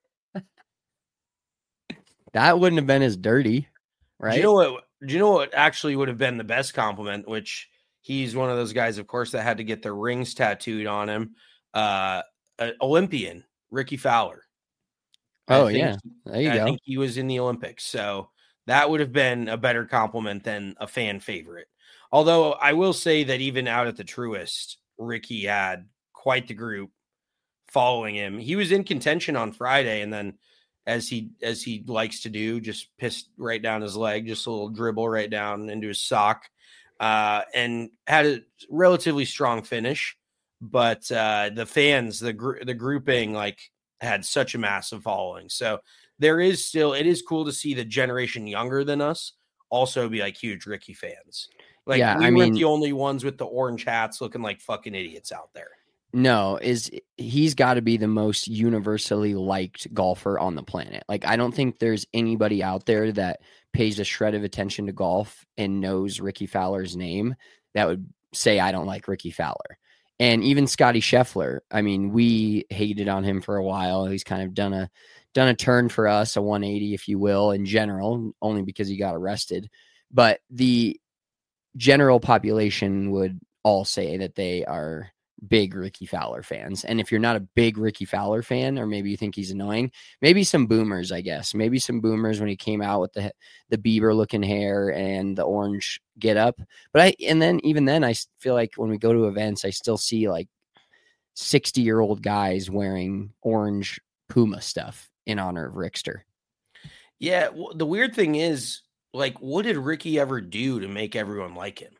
That wouldn't have been as dirty, right? Do you know what actually would have been the best compliment, which he's one of those guys, of course, that had to get their rings tattooed on him. An Olympian, Ricky Fowler. Oh, yeah. There you go. I think he was in the Olympics. So that would have been a better compliment than a fan favorite. Although I will say that even out at the Truist, Ricky had quite the group following him. He was in contention on Friday, and then as he likes to do, just pissed right down his leg, just a little dribble right down into his sock, and had a relatively strong finish. But the fans, the grouping, like, had such a massive following. So it is cool to see the generation younger than us also be like huge Ricky fans. Like, yeah, we weren't the only ones with the orange hats looking like fucking idiots out there. No, he's got to be the most universally liked golfer on the planet. Like, I don't think there's anybody out there that pays a shred of attention to golf and knows Ricky Fowler's name that would say, I don't like Ricky Fowler. And even Scotty Scheffler, I mean, we hated on him for a while. He's kind of done a turn for us, a 180, if you will, in general, only because he got arrested. But the general population would all say that they are big Ricky Fowler fans. And if you're not a big Ricky Fowler fan, or maybe you think he's annoying, maybe some boomers, I guess. Maybe some boomers when he came out with the Bieber looking hair and the orange get up. But even then I feel like when we go to events, I still see like 60-year-old guys wearing orange Puma stuff in honor of Rickster. Yeah. Well, the weird thing is, like, what did Ricky ever do to make everyone like him?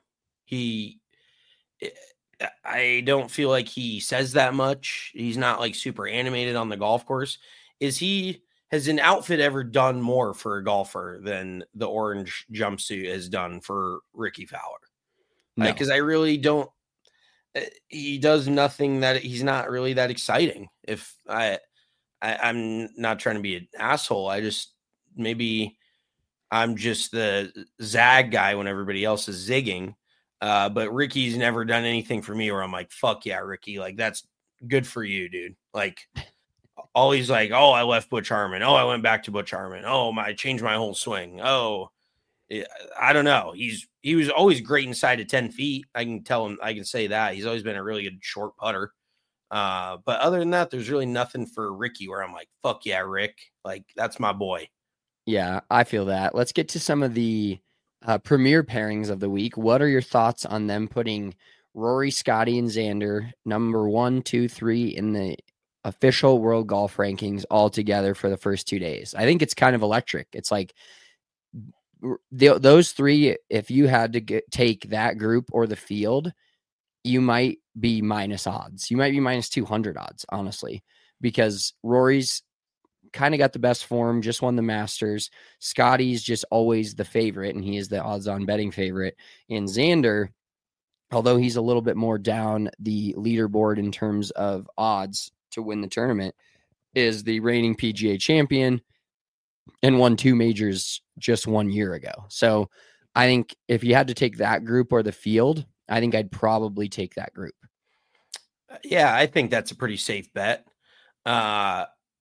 I don't feel like he says that much. He's not like super animated on the golf course. Has an outfit ever done more for a golfer than the orange jumpsuit has done for Ricky Fowler? No. Because I really don't. He does nothing that he's not really that exciting. If I'm not trying to be an asshole. Maybe I'm just the zag guy when everybody else is zigging. But Ricky's never done anything for me where I'm like, fuck yeah, Ricky. Like, that's good for you, dude. Like, always like, oh, I left Butch Harmon. Oh, I went back to Butch Harmon. Oh, I changed my whole swing. Oh, I don't know. He was always great inside of 10 feet. I can say that. He's always been a really good short putter. But other than that, there's really nothing for Ricky where I'm like, fuck yeah, Rick. Like, that's my boy. Yeah, I feel that. Let's get to some of the premier pairings of the week. What are your thoughts on them putting Rory, Scotty, and Xander number 1, 2, 3 in the official world golf rankings all together for the first 2 days? I think it's kind of electric. It's like those three, if you had to take that group or the field, you might be minus odds. You might be minus 200 odds, honestly, because Rory's kind of got the best form, just won the Masters. Scotty's just always the favorite, and he is the odds-on betting favorite. And Xander, although he's a little bit more down the leaderboard in terms of odds to win the tournament, is the reigning PGA champion and won 2 majors just 1 year ago. So I think if you had to take that group or the field, I think I'd probably take that group. Yeah, I think that's a pretty safe bet.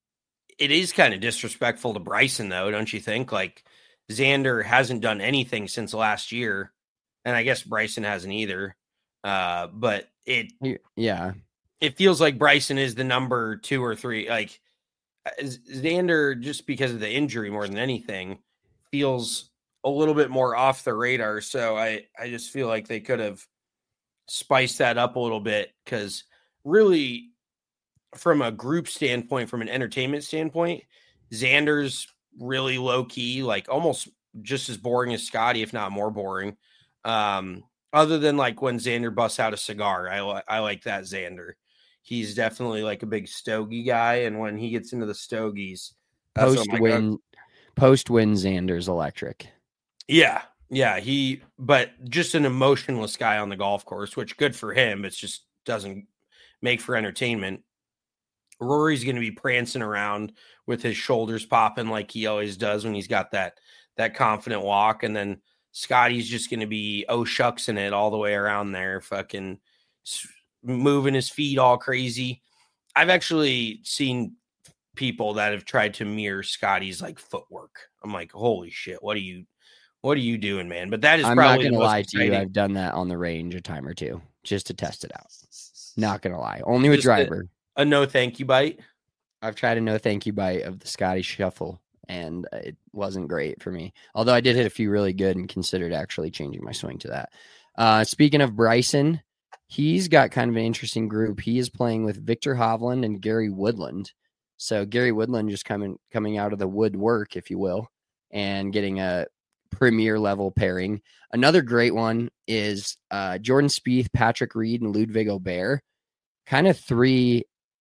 it is kind of disrespectful to Bryson, though, don't you think? Like, Xander hasn't done anything since last year, and I guess Bryson hasn't either. But it feels like Bryson is the number 2 or 3. Like, Xander, just because of the injury more than anything, feels a little bit more off the radar. So I just feel like they could have spiced that up a little bit, because really, from a group standpoint, from an entertainment standpoint, Xander's really low key, like almost just as boring as Scotty, if not more boring. Other than like when Xander busts out a cigar, I like that Xander. He's definitely like a big stogie guy, and when he gets into the stogies, post win Xander's electric. Yeah, but just an emotionless guy on the golf course, which good for him. It just doesn't make for entertainment. Rory's going to be prancing around with his shoulders popping like he always does when he's got that confident walk. And then Scotty's just going to be shucks in it all the way around there, fucking moving his feet all crazy. I've actually seen people that have tried to mirror Scotty's like footwork. I'm like, holy shit, what are you doing, man? But that is I'm probably not going to lie to you. I've done that on the range a time or two just to test it out. Not going to lie. Only with driver. A no thank you bite. I've tried a no thank you bite of the Scotty shuffle, and it wasn't great for me. Although I did hit a few really good and considered actually changing my swing to that. Speaking of Bryson, he's got kind of an interesting group. He is playing with Victor Hovland and Gary Woodland. So Gary Woodland just coming out of the woodwork, if you will, and getting a premier level pairing. Another great one is Jordan Spieth, Patrick Reed, and Ludwig Aubert. Kind of three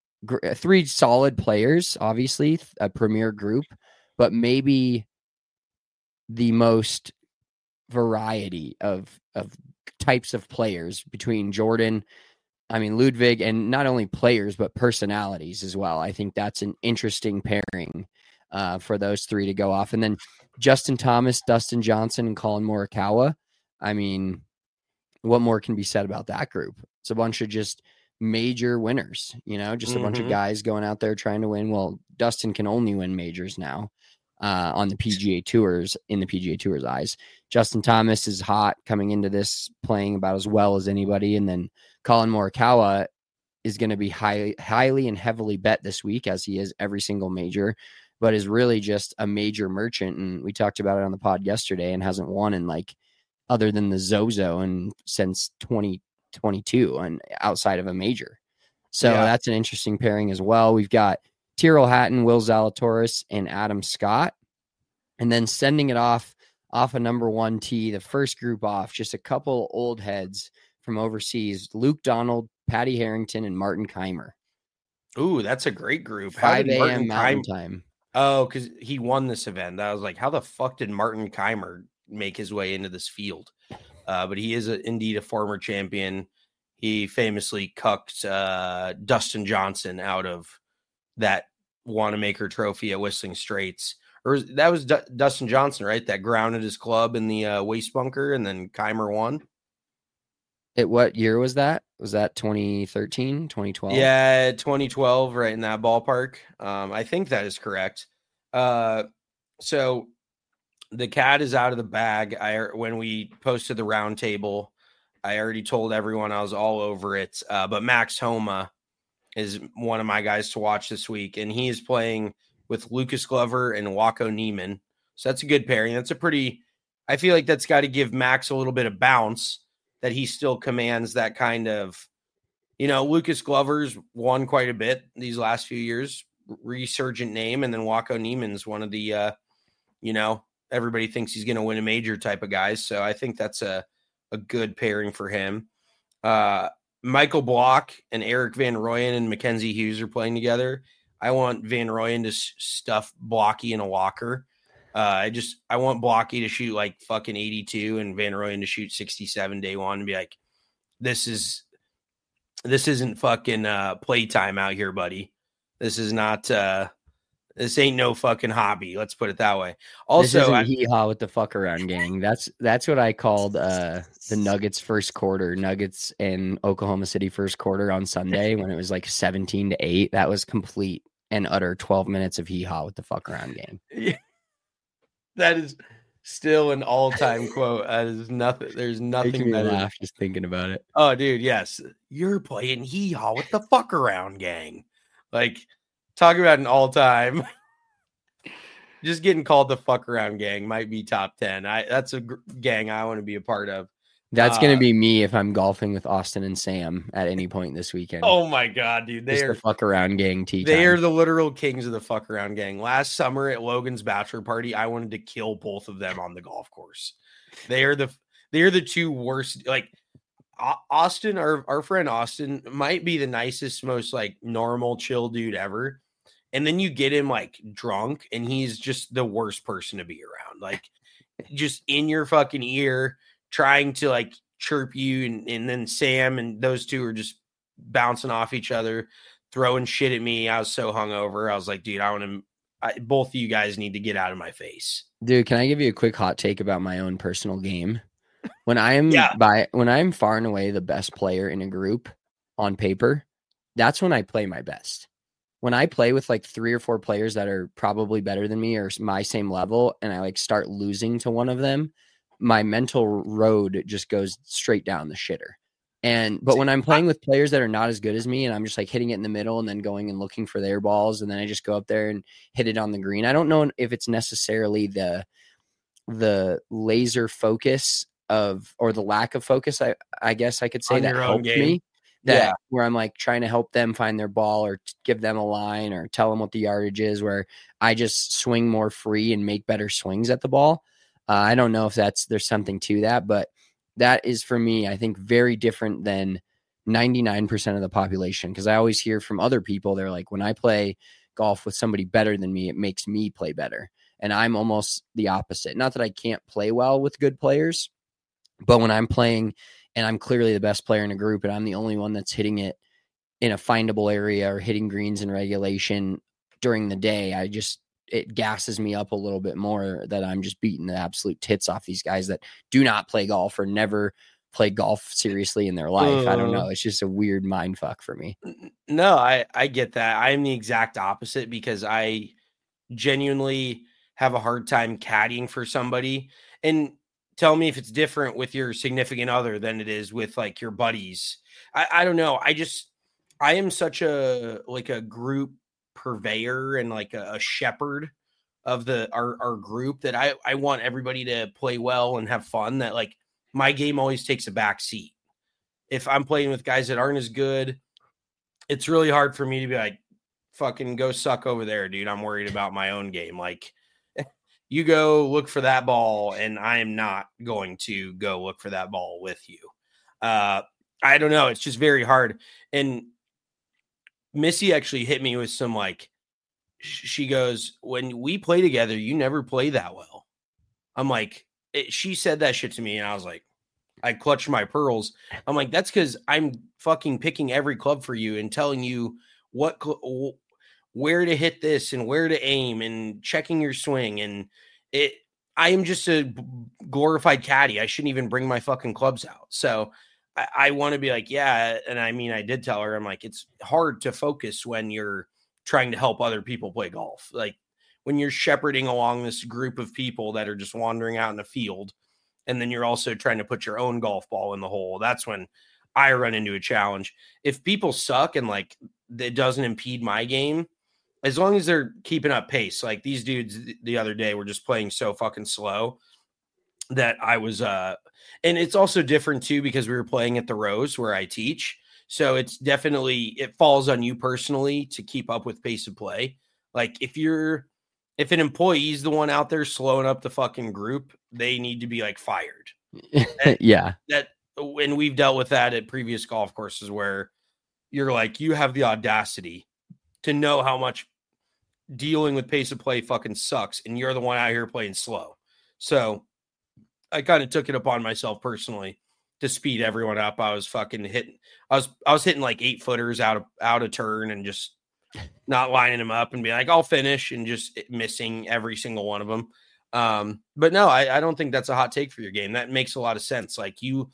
solid players, obviously a premier group, but maybe the most variety of types of players between Ludwig, and not only players, but personalities as well. I think that's an interesting pairing for those three to go off. And then Justin Thomas, Dustin Johnson, and Colin Morikawa. I mean, what more can be said about that group? It's a bunch of just major winners, just a bunch of guys going out there trying to win. Well, Dustin can only win majors now on the PGA Tours, in the PGA Tour's eyes. Justin Thomas is hot coming into this, playing about as well as anybody. And then Colin Morikawa is going to be highly and heavily bet this week, as he is every single major, but is really just a major merchant. And we talked about it on the pod yesterday, and hasn't won in other than the Zozo and since 2022 and outside of a major. So that's an interesting pairing as well. We've got Tyrrell Hatton, Will Zalatoris, and Adam Scott. And then sending it off a number 1 tee, the first group off, just a couple old heads from overseas, Luke Donald, Patty Harrington, and Martin Keimer. Ooh, that's a great group. 5 a.m. Mountain Time. Oh, because he won this event. I was like, how the fuck did Martin Keimer make his way into this field? But he is indeed a former champion. He famously cucked Dustin Johnson out of that Wanamaker Trophy at Whistling Straits. Or that was Dustin Johnson, right? That grounded his club in the waste bunker, and then Keimer won. What year was that? Was that 2013, 2012? Yeah, 2012, right in that ballpark. I think that is correct. So the cat is out of the bag. When we posted the round table, I already told everyone I was all over it. But Max Homa is one of my guys to watch this week, and he is playing with Lucas Glover and Waco Neiman. So that's a good pairing. I feel like that's got to give Max a little bit of bounce, that he still commands that kind of, Lucas Glover's won quite a bit these last few years, resurgent name. And then Waco Neiman's one of the, everybody thinks he's going to win a major type of guys. So I think that's a good pairing for him. Michael Block and Eric Van Rooyen and Mackenzie Hughes are playing together. I want Van Rooyen to stuff Blocky in a locker. I want Blocky to shoot like fucking 82 and Van Rooyen to shoot 67 day one and be like, this isn't fucking playtime out here, buddy. This is not this ain't no fucking hobby. Let's put it that way. Also, this isn't hee-haw with the fuck around gang. That's what I called the Nuggets first quarter, Nuggets in Oklahoma City first quarter on Sunday when it was like 17-8. That was complete and utter 12 minutes of hee-haw with the fuck around gang. Yeah. That is still an all-time quote. That is nothing. There's nothing Making me better. laugh just thinking about it. Oh, dude, yes. You're playing hee-haw with the fuck around gang. Like, talk about an all-time. Just getting called the fuck around gang might be top 10. That's a gang I want to be a part of. That's going to be me if I'm golfing with Austin and Sam at any point this weekend. Oh my God, dude. They are the fuck around gang tea They time. are the literal kings of the fuck around gang. Last summer at Logan's bachelor party, I wanted to kill both of them on the golf course. They are the two worst. Like Austin, our friend Austin might be the nicest, most like normal, chill dude ever. And then you get him like drunk and he's just the worst person to be around. Like just in your fucking ear, trying to like chirp you. And then Sam and those two are just bouncing off each other, throwing shit at me. I was so hungover. I was like, dude, both of you guys need to get out of my face. Dude, can I give you a quick hot take about my own personal game? When I am far and away the best player in a group on paper, that's when I play my best. When I play with like 3 or 4 players that are probably better than me or my same level, and I like start losing to one of them, my mental road just goes straight down the shitter. But when I'm playing with players that are not as good as me and I'm just like hitting it in the middle and then going and looking for their balls, and then I just go up there and hit it on the green. I don't know if it's necessarily the laser focus or the lack of focus, I guess I could say, that helped me. Where I'm like trying to help them find their ball or give them a line or tell them what the yardage is, where I just swing more free and make better swings at the ball. I don't know if there's something to that, but that is for me, I think, very different than 99% of the population. Because I always hear from other people, they're like, when I play golf with somebody better than me, it makes me play better. And I'm almost the opposite. Not that I can't play well with good players, but when I'm playing and I'm clearly the best player in a group and I'm the only one that's hitting it in a findable area or hitting greens in regulation during the day, it gasses me up a little bit more that I'm just beating the absolute tits off these guys that do not play golf or never play golf seriously in their life. I don't know. It's just a weird mind fuck for me. No, I get that. I'm the exact opposite because I genuinely have a hard time caddying for somebody. And tell me if it's different with your significant other than it is with like your buddies. I don't know. I am such a group purveyor and like a shepherd of our group that I want everybody to play well and have fun, that like my game always takes a back seat. If I'm playing with guys that aren't as good, it's really hard for me to be like, fucking go suck over there, dude. I'm worried about my own game. Like, you go look for that ball, and I am not going to go look for that ball with you. I don't know. It's just very hard. And Missy actually hit me with some like, she goes, when we play together, you never play that well. I'm like, she said that shit to me, and I was like, I clutched my pearls. I'm like, that's because I'm fucking picking every club for you and telling you where to hit this and where to aim and checking your swing. And I am just a glorified caddy. I shouldn't even bring my fucking clubs out. So I want to be like, yeah. And I mean, I did tell her, I'm like, it's hard to focus when you're trying to help other people play golf. Like when you're shepherding along this group of people that are just wandering out in the field, and then you're also trying to put your own golf ball in the hole. That's when I run into a challenge. If people suck and like it doesn't impede my game, as long as they're keeping up pace, like these dudes the other day were just playing so fucking slow that I was, and it's also different too, because we were playing at the Rose where I teach. So it's definitely, it falls on you personally to keep up with pace of play. Like if an employee is the one out there slowing up the fucking group, they need to be like fired. Yeah. And we've dealt with that at previous golf courses where you're like, you have the audacity to know how much dealing with pace of play fucking sucks, and you're the one out here playing slow. So I kind of took it upon myself personally to speed everyone up. I was fucking hitting, I was hitting like 8-footers out of turn and just not lining them up and be like, I'll finish, and just missing every single one of them. But no, I don't think that's a hot take for your game. That makes a lot of sense. Like you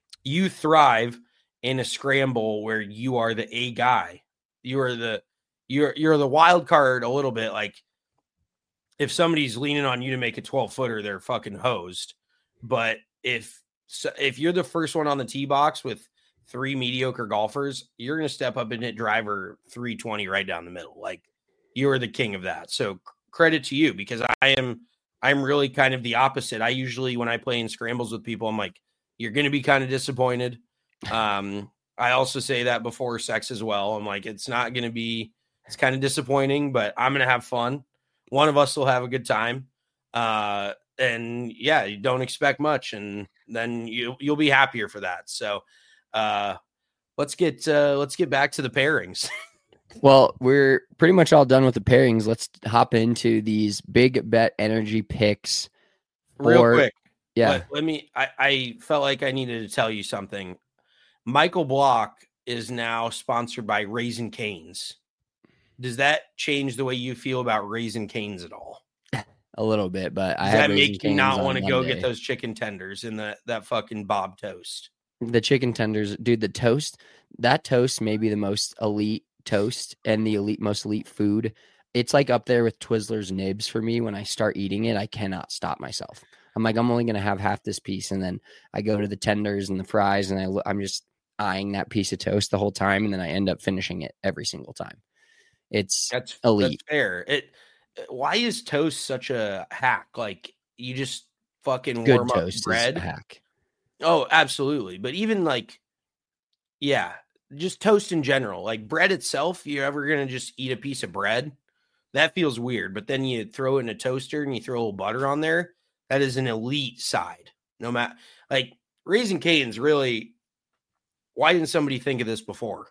thrive in a scramble where you are the A guy. You are you're the wild card a little bit. Like if somebody's leaning on you to make a 12-footer, they're fucking hosed. But if you're the first one on the tee box with 3 mediocre golfers, you're going to step up and hit driver 320 right down the middle. Like you're the king of that. So credit to you, because I'm really kind of the opposite. I usually, when I play in scrambles with people, I'm like, you're going to be kind of disappointed. I also say that before sex as well. I'm like, it's kind of disappointing, but I'm going to have fun. One of us will have a good time. And yeah, you don't expect much, and then you'll be happier for that. So let's get back to the pairings. Well, we're pretty much all done with the pairings. Let's hop into these big bet energy picks. Real quick. Yeah. I felt like I needed to tell you something. Michael Block is now sponsored by Raising Cane's. Does that change the way you feel about Raising Cane's at all? A little bit, but Does that make you not want to go get those chicken tenders and that fucking Bob toast? The chicken tenders, dude, that toast may be the most elite toast and the most elite food. It's like up there with Twizzlers nibs for me. When I start eating it, I cannot stop myself. I'm like, I'm only going to have half this piece. And then I go to the tenders and the fries, and I'm just eyeing that piece of toast the whole time. And then I end up finishing it every single time. That's elite. That's fair. Why is toast such a hack? Like you just fucking Good warm up toast bread. Is a hack. Oh, absolutely. But even just toast in general, like bread itself, you're ever going to just eat a piece of bread? That feels weird. But then you throw it in a toaster and you throw a little butter on there. That is an elite side. No matter, like Raising Cane's really, why didn't somebody think of this before?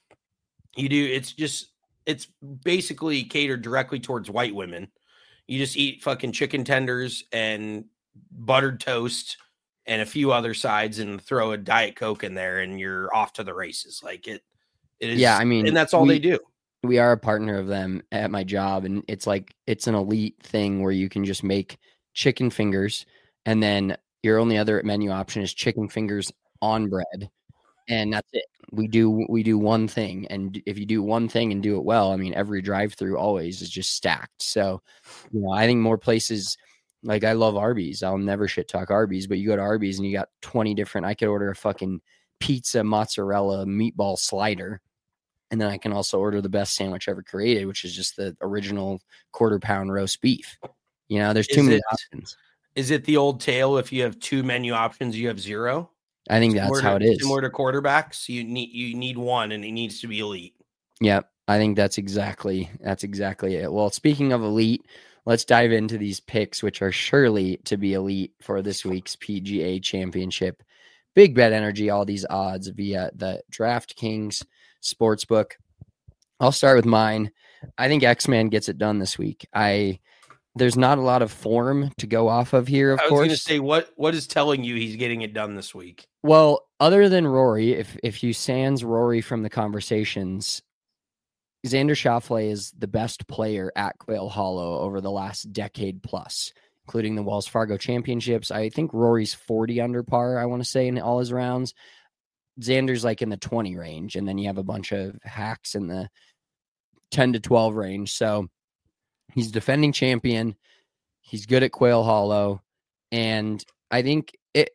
It's basically catered directly towards white women. You just eat fucking chicken tenders and buttered toast and a few other sides and throw a Diet Coke in there and you're off to the races. Like it is. Yeah. I mean, and that's all they do. We are a partner of them at my job. And it's like, it's an elite thing where you can just make chicken fingers. And then your only other menu option is chicken fingers on bread. And that's it. We do one thing. And if you do one thing and do it well, I mean, every drive-through always is just stacked. So, I think more places, like I love Arby's. I'll never shit talk Arby's, but you go to Arby's and you got 20 different, I could order a fucking pizza, mozzarella, meatball slider. And then I can also order the best sandwich ever created, which is just the original quarter-pound roast beef. There's too many options. Is it the old tale? If you have 2 menu options, you have 0? I think that's how it is. Similar to quarterbacks, you need one, and it needs to be elite. Yeah, I think that's exactly it. Well, speaking of elite, let's dive into these picks, which are surely to be elite for this week's PGA Championship. Big bet energy, all these odds via the DraftKings Sportsbook. I'll start with mine. I think X-Man gets it done this week. There's not a lot of form to go off of here, of course. I was going to say, what is telling you he's getting it done this week? Well, other than Rory, if you sans Rory from the conversations, Xander Schauffele is the best player at Quail Hollow over the last decade plus, including the Wells Fargo Championships. I think Rory's 40 under par, I want to say, in all his rounds. Xander's like in the 20 range, and then you have a bunch of hacks in the 10 to 12 range. So he's defending champion. He's good at Quail Hollow. And I think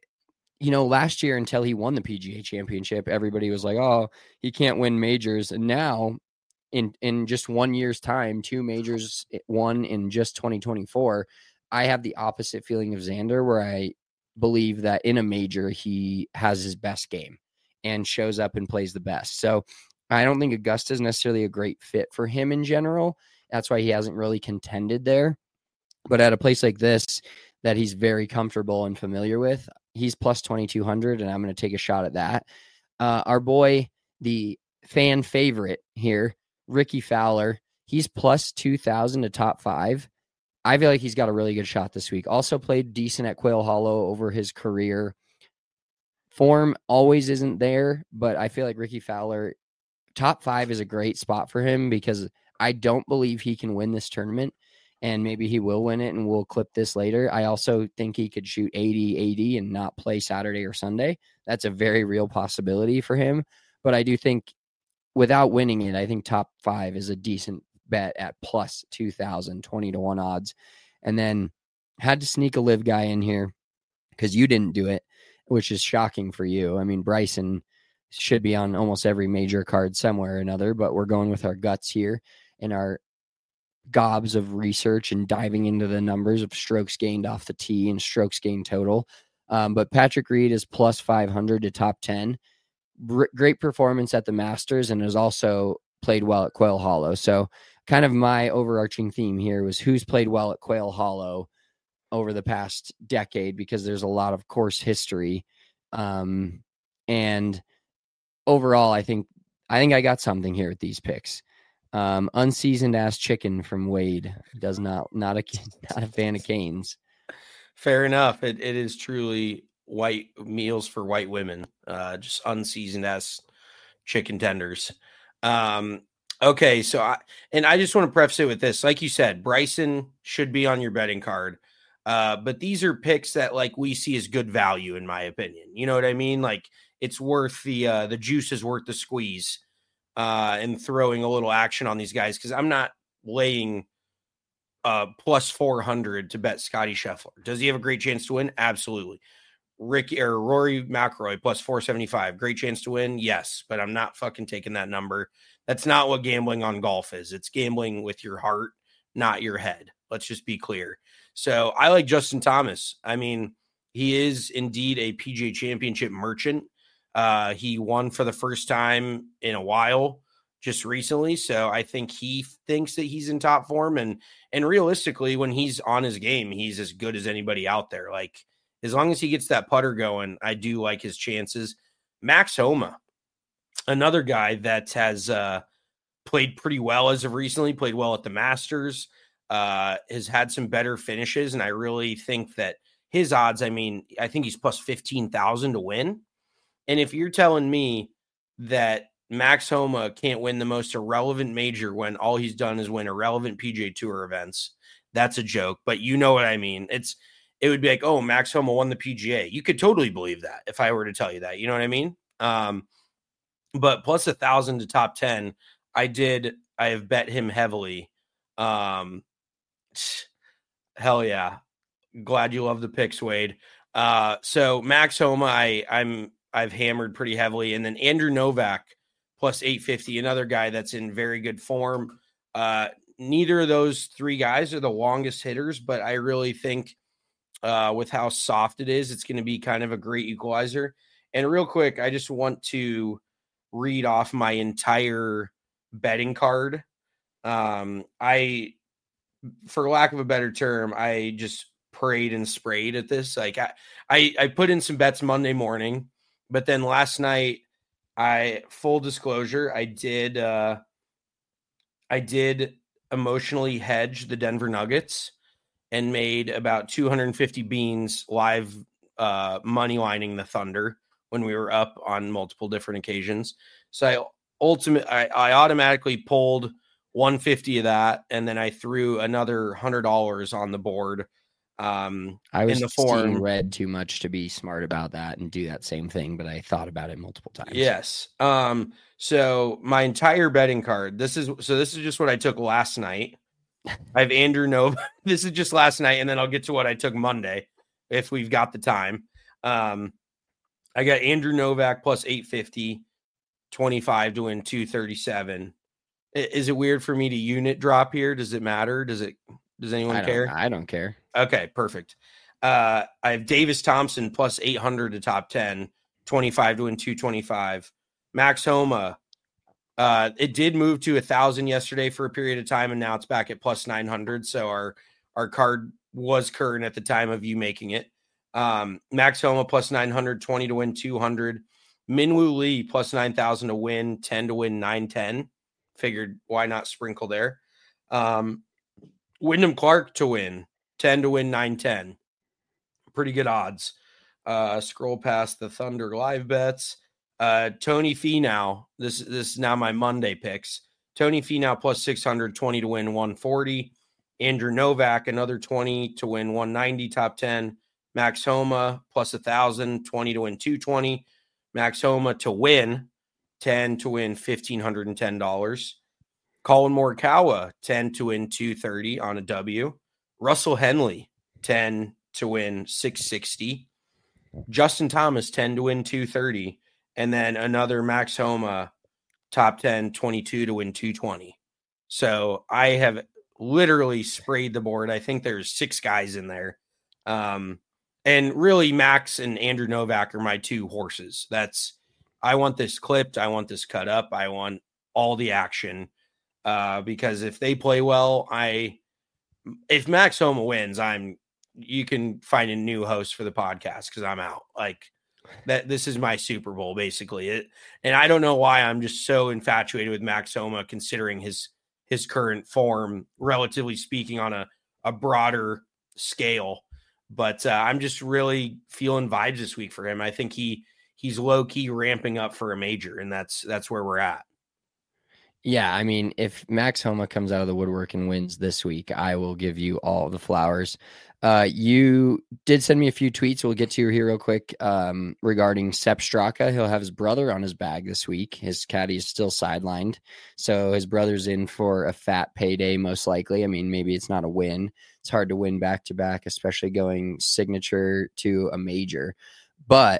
last year until he won the PGA Championship, everybody was like, oh, he can't win majors. And now in just 1 year's time, 2 majors won in just 2024. I have the opposite feeling of Xander, where I believe that in a major, he has his best game and shows up and plays the best. So I don't think Augusta is necessarily a great fit for him in general. That's why he hasn't really contended there. But at a place like this that he's very comfortable and familiar with, he's plus 2,200, and I'm going to take a shot at that. Our boy, the fan favorite here, Ricky Fowler, he's plus 2,000 to top 5. I feel like he's got a really good shot this week. Also played decent at Quail Hollow over his career. Form always isn't there, but I feel like Ricky Fowler, top 5 is a great spot for him, because I don't believe he can win this tournament, and maybe he will win it, and we'll clip this later. I also think he could shoot 80 and not play Saturday or Sunday. That's a very real possibility for him. But I do think without winning it, I think top 5 is a decent bet at plus 2,000, 20-1 odds. And then had to sneak a live guy in here because you didn't do it, which is shocking for you. I mean, Bryson should be on almost every major card somewhere or another, but we're going with our guts here and our gobs of research and diving into the numbers of strokes gained off the tee and strokes gained total. But Patrick Reed is plus 500 to top 10. Great performance at the Masters and has also played well at Quail Hollow. So kind of my overarching theme here was who's played well at Quail Hollow over the past decade, because there's a lot of course history. And overall, I think I got something here with these picks. Unseasoned ass chicken from Wade does not a fan of Canes. Fair enough. It is truly white meals for white women. Just unseasoned ass chicken tenders. Okay, so I just want to preface it with this. Like you said, Bryson should be on your betting card. But these are picks that like we see as good value, in my opinion. You know what I mean? Like it's worth the juice is worth the squeeze, and throwing a little action on these guys, because I'm not laying plus 400 to bet Scotty Scheffler. Does he have a great chance to win? Absolutely. Rory McIlroy plus 475. Great chance to win? Yes, but I'm not fucking taking that number. That's not what gambling on golf is. It's gambling with your heart, not your head. Let's just be clear. So I like Justin Thomas. I mean, he is indeed a PGA Championship merchant. He won for the first time in a while just recently. So I think he thinks that he's in top form. And realistically, when he's on his game, he's as good as anybody out there. Like, as long as he gets that putter going, I do like his chances. Max Homa, another guy that has played pretty well as of recently, played well at the Masters, has had some better finishes. And I really think that his odds, I mean, I think he's plus 15,000 to win. And if you're telling me that Max Homa can't win the most irrelevant major when all he's done is win irrelevant PGA Tour events, that's a joke. But you know what I mean? It would be like, oh, Max Homa won the PGA. You could totally believe that if I were to tell you that. You know what I mean? But plus 1,000 to top 10, I have bet him heavily. Hell yeah. Glad you love the picks, Wade. So Max Homa, I've hammered pretty heavily. And then Andrew Novak plus 850, another guy that's in very good form. Neither of those three guys are the longest hitters, but I really think with how soft it is, it's going to be kind of a great equalizer. And real quick, I just want to read off my entire betting card. For lack of a better term, I just prayed and sprayed at this. Like I put in some bets Monday morning, but then last night, full disclosure, I did emotionally hedge the Denver Nuggets and made about 250 beans live money lining the Thunder when we were up on multiple different occasions. So I automatically pulled 150 of that, and then I threw another $100 on the board. I was seeing red too much to be smart about that and do that same thing, but I thought about it multiple times. Yes. So my entire betting card, this is just what I took last night. I have Andrew Novak. This is just last night, and then I'll get to what I took Monday if we've got the time. I got Andrew Novak plus 850, 25 to win 237. Is it weird for me to unit drop here? Does it matter? Does anyone care? I don't care. Okay, perfect. I have Davis Thompson plus 800 to top 10, 25 to win 225. Max Homa, it did move to 1,000 yesterday for a period of time, and now it's back at plus 900. So our card was current at the time of you making it. Max Homa plus 900, 20 to win 200. Minwoo Lee plus 9,000 to win, 10 to win 910. Figured why not sprinkle there. Wyndham Clark to win, 10 to win 910. Pretty good odds. Scroll past the Thunder live bets. Tony Finau, this is now my Monday picks. Tony Finau plus 600, 20 to win 140. Andrew Novak, another 20 to win 190, top 10. Max Homa plus 1,000, 20 to win 220. Max Homa to win, 10 to win $1,510. Colin Morikawa, 10 to win $230 on a W. Russell Henley, 10 to win $660. Justin Thomas, 10 to win $230. And then another Max Homa, top 10, 22 to win $220. So I have literally sprayed the board. I think there's 6 guys in there. And really, Max and Andrew Novak are my 2 horses. I want this clipped. I want this cut up. I want all the action because if they play well, if Max Homa wins, you can find a new host for the podcast because I'm out. Like that, this is my Super Bowl basically. And I don't know why I'm just so infatuated with Max Homa, considering his current form, relatively speaking, on a broader scale. But I'm just really feeling vibes this week for him. I think he's low key ramping up for a major, and that's where we're at. Yeah, I mean, if Max Homa comes out of the woodwork and wins this week, I will give you all the flowers. You did send me a few tweets. We'll get to here real quick regarding Sepp Straka. He'll have his brother on his bag this week. His caddy is still sidelined, so his brother's in for a fat payday, most likely. I mean, maybe it's not a win. It's hard to win back-to-back, especially going signature to a major. But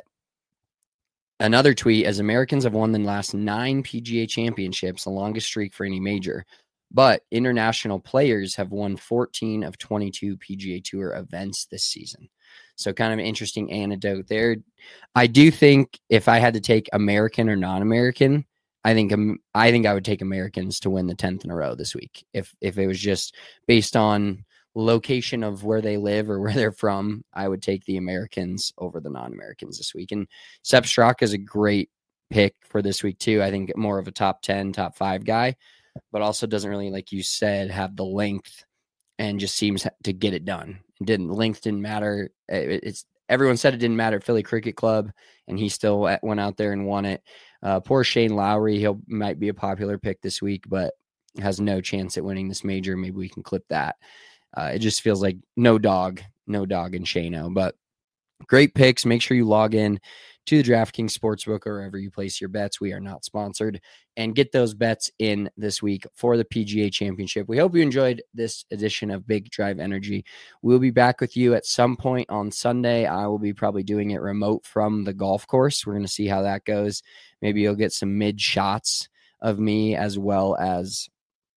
another tweet, as Americans have won the last 9 PGA championships, the longest streak for any major, but international players have won 14 of 22 PGA Tour events this season. So kind of an interesting anecdote there. I do think if I had to take American or non-American, I think I would take Americans to win the 10th in a row this week. If it was just based on location of where they live or where they're from, I would take the Americans over the non-Americans this week. And Sepp Straka is a great pick for this week too. I think more of a top 10, top 5 guy, but also doesn't really, like you said, have the length and just seems to get it done. Length didn't matter. Everyone said it didn't matter at Philly Cricket Club, and he still went out there and won it. Poor Shane Lowry, he might be a popular pick this week, but has no chance at winning this major. Maybe we can clip that. It just feels like no dog in Shano, but great picks. Make sure you log in to the DraftKings Sportsbook or wherever you place your bets. We are not sponsored, and get those bets in this week for the PGA Championship. We hope you enjoyed this edition of Big Drive Energy. We'll be back with you at some point on Sunday. I will be probably doing it remote from the golf course. We're going to see how that goes. Maybe you'll get some mid shots of me, as well as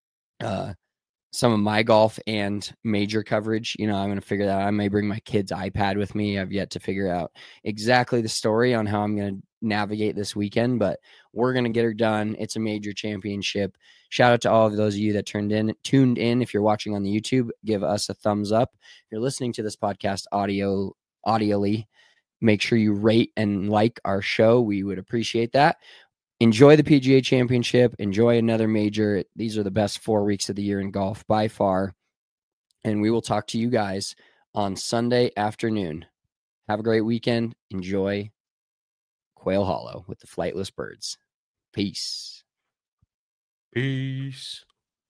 some of my golf and major coverage. I'm going to figure that out. I may bring my kid's iPad with me. I've yet to figure out exactly the story on how I'm going to navigate this weekend, but we're going to get her done. It's a major championship. Shout out to all of those of you that tuned in. If you're watching on the YouTube, give us a thumbs up. If you're listening to this podcast audioly, make sure you rate and like our show. We would appreciate that. Enjoy the PGA Championship. Enjoy another major. These are the best 4 weeks of the year in golf by far. And we will talk to you guys on Sunday afternoon. Have a great weekend. Enjoy Quail Hollow with the Flightless Birds. Peace. Peace.